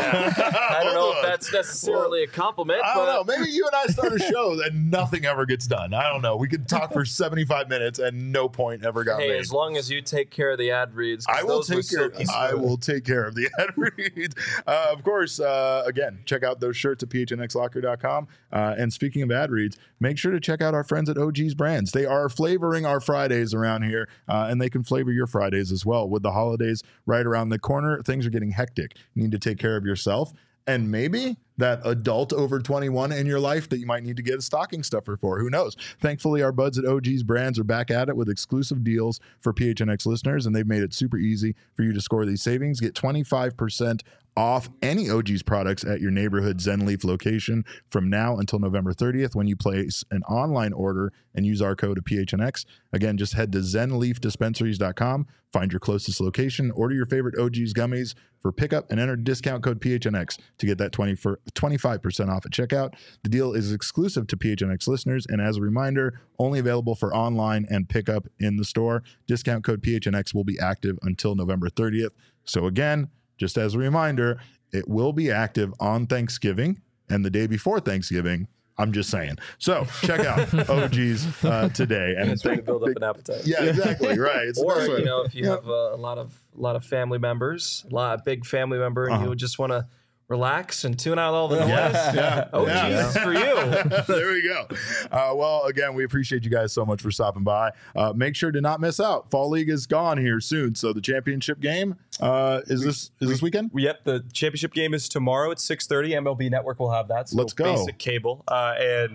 I don't know if that's necessarily a compliment, I but don't know. Maybe you and I start a show and nothing ever gets done. I don't know. We could talk for seventy-five minutes and no point ever got hey, made. as long as you take care of the ad reads, 'cause I will those were take care. silky I smooth. will take care of the ad reads. Uh, of course, uh, again, check out those shirts at P H N X locker dot com. Uh, and speaking of ad reads, make sure to check out our friends at O G's Brands. They are flavoring our Fridays around here, uh, and they can flavor your Fridays as well. With the holidays right around the corner, things are getting hectic. You need to take care of yourself. And maybe that adult over twenty-one in your life that you might need to get a stocking stuffer for. Who knows? Thankfully, our buds at O G's Brands are back at it with exclusive deals for P H N X listeners, and they've made it super easy for you to score these savings. Get twenty-five percent off any O G's products at your neighborhood Zenleaf location from now until November thirtieth when you place an online order and use our code of P H N X. Again, just head to zenleaf dispensaries dot com, find your closest location, order your favorite O G's gummies for pickup, and enter discount code P H N X to get that twenty for twenty-five percent off at checkout. The deal is exclusive to P H N X listeners, and as a reminder, only available for online and pickup in the store. Discount code P H N X will be active until November thirtieth. So again, just as a reminder, it will be active on Thanksgiving and the day before Thanksgiving. I'm just saying. So check out O G's uh, today. And It's way to build up an appetite. yeah, exactly. Right. It's the Or best way. you know, if you Yeah. have a, a lot of a lot of family members, a lot of big family member, and Uh-huh. you just want to relax and tune out all the noise. Yes, yeah. Oh, yeah. Jesus, for you. There we go. Uh, well, again, we appreciate you guys so much for stopping by. Uh, make sure to not miss out. Fall League is gone here soon, so the championship game uh, is this is this weekend? Yep, the championship game is tomorrow at six thirty. M L B Network will have that. So Let's go. Basic cable. Uh, and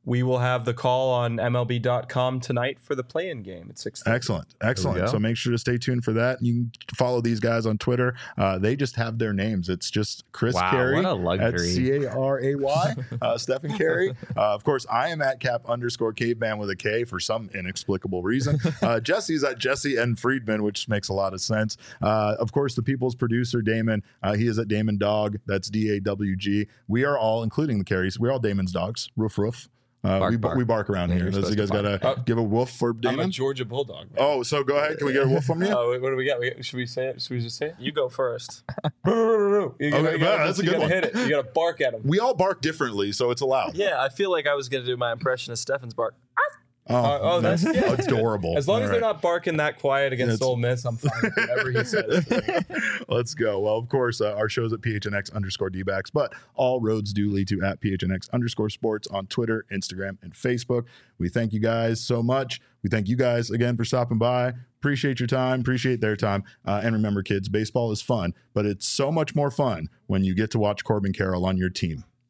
we will have the call on M L B dot com tonight for the play-in game at six thirty. Excellent. Excellent. go. So make sure to stay tuned for that. You can follow these guys on Twitter. Uh, they just have their names. It's just Chris Wow, Carey what a at luxury. C A R A Y, uh, Stephen Carey. Uh, of course, I am at cap underscore caveman with a K for some inexplicable reason. Uh, Jesse's at Jesse N. Friedman, which makes a lot of sense. Uh, of course, the people's producer, Damon, uh, he is at Damon Dog. That's D A W G. We are all, including the Careys, we're all Damon's dogs. Roof, roof. Uh, Bark, we, bark. we bark around Yeah, here. you're Those you guys supposed to got to bark. give a woof for I'm a Damon. Georgia Bulldog. Man. Oh, so go ahead. Can we get a woof from you? Oh, what do we got? We, should we say it? Should we just say it? You go first. You gotta, Okay, you yeah, gotta, that's a you good gotta one. hit it. You gotta bark at him. We all bark differently, so it's allowed. Yeah, I feel like I was going to do my impression of Stefan's bark. Oh, Uh, oh, that's- yeah. adorable. As long All as right. they're not barking that quiet against That's- Ole Miss, I'm fine with whatever he says. Let's go. Well, of course, uh, our show's at P H N X underscore D-backs, but all roads do lead to at P H N X underscore sports on Twitter, Instagram, and Facebook. We thank you guys so much. We thank you guys again for stopping by. Appreciate your time. Appreciate their time. Uh, and remember, kids, baseball is fun, but it's so much more fun when you get to watch Corbin Carroll on your team.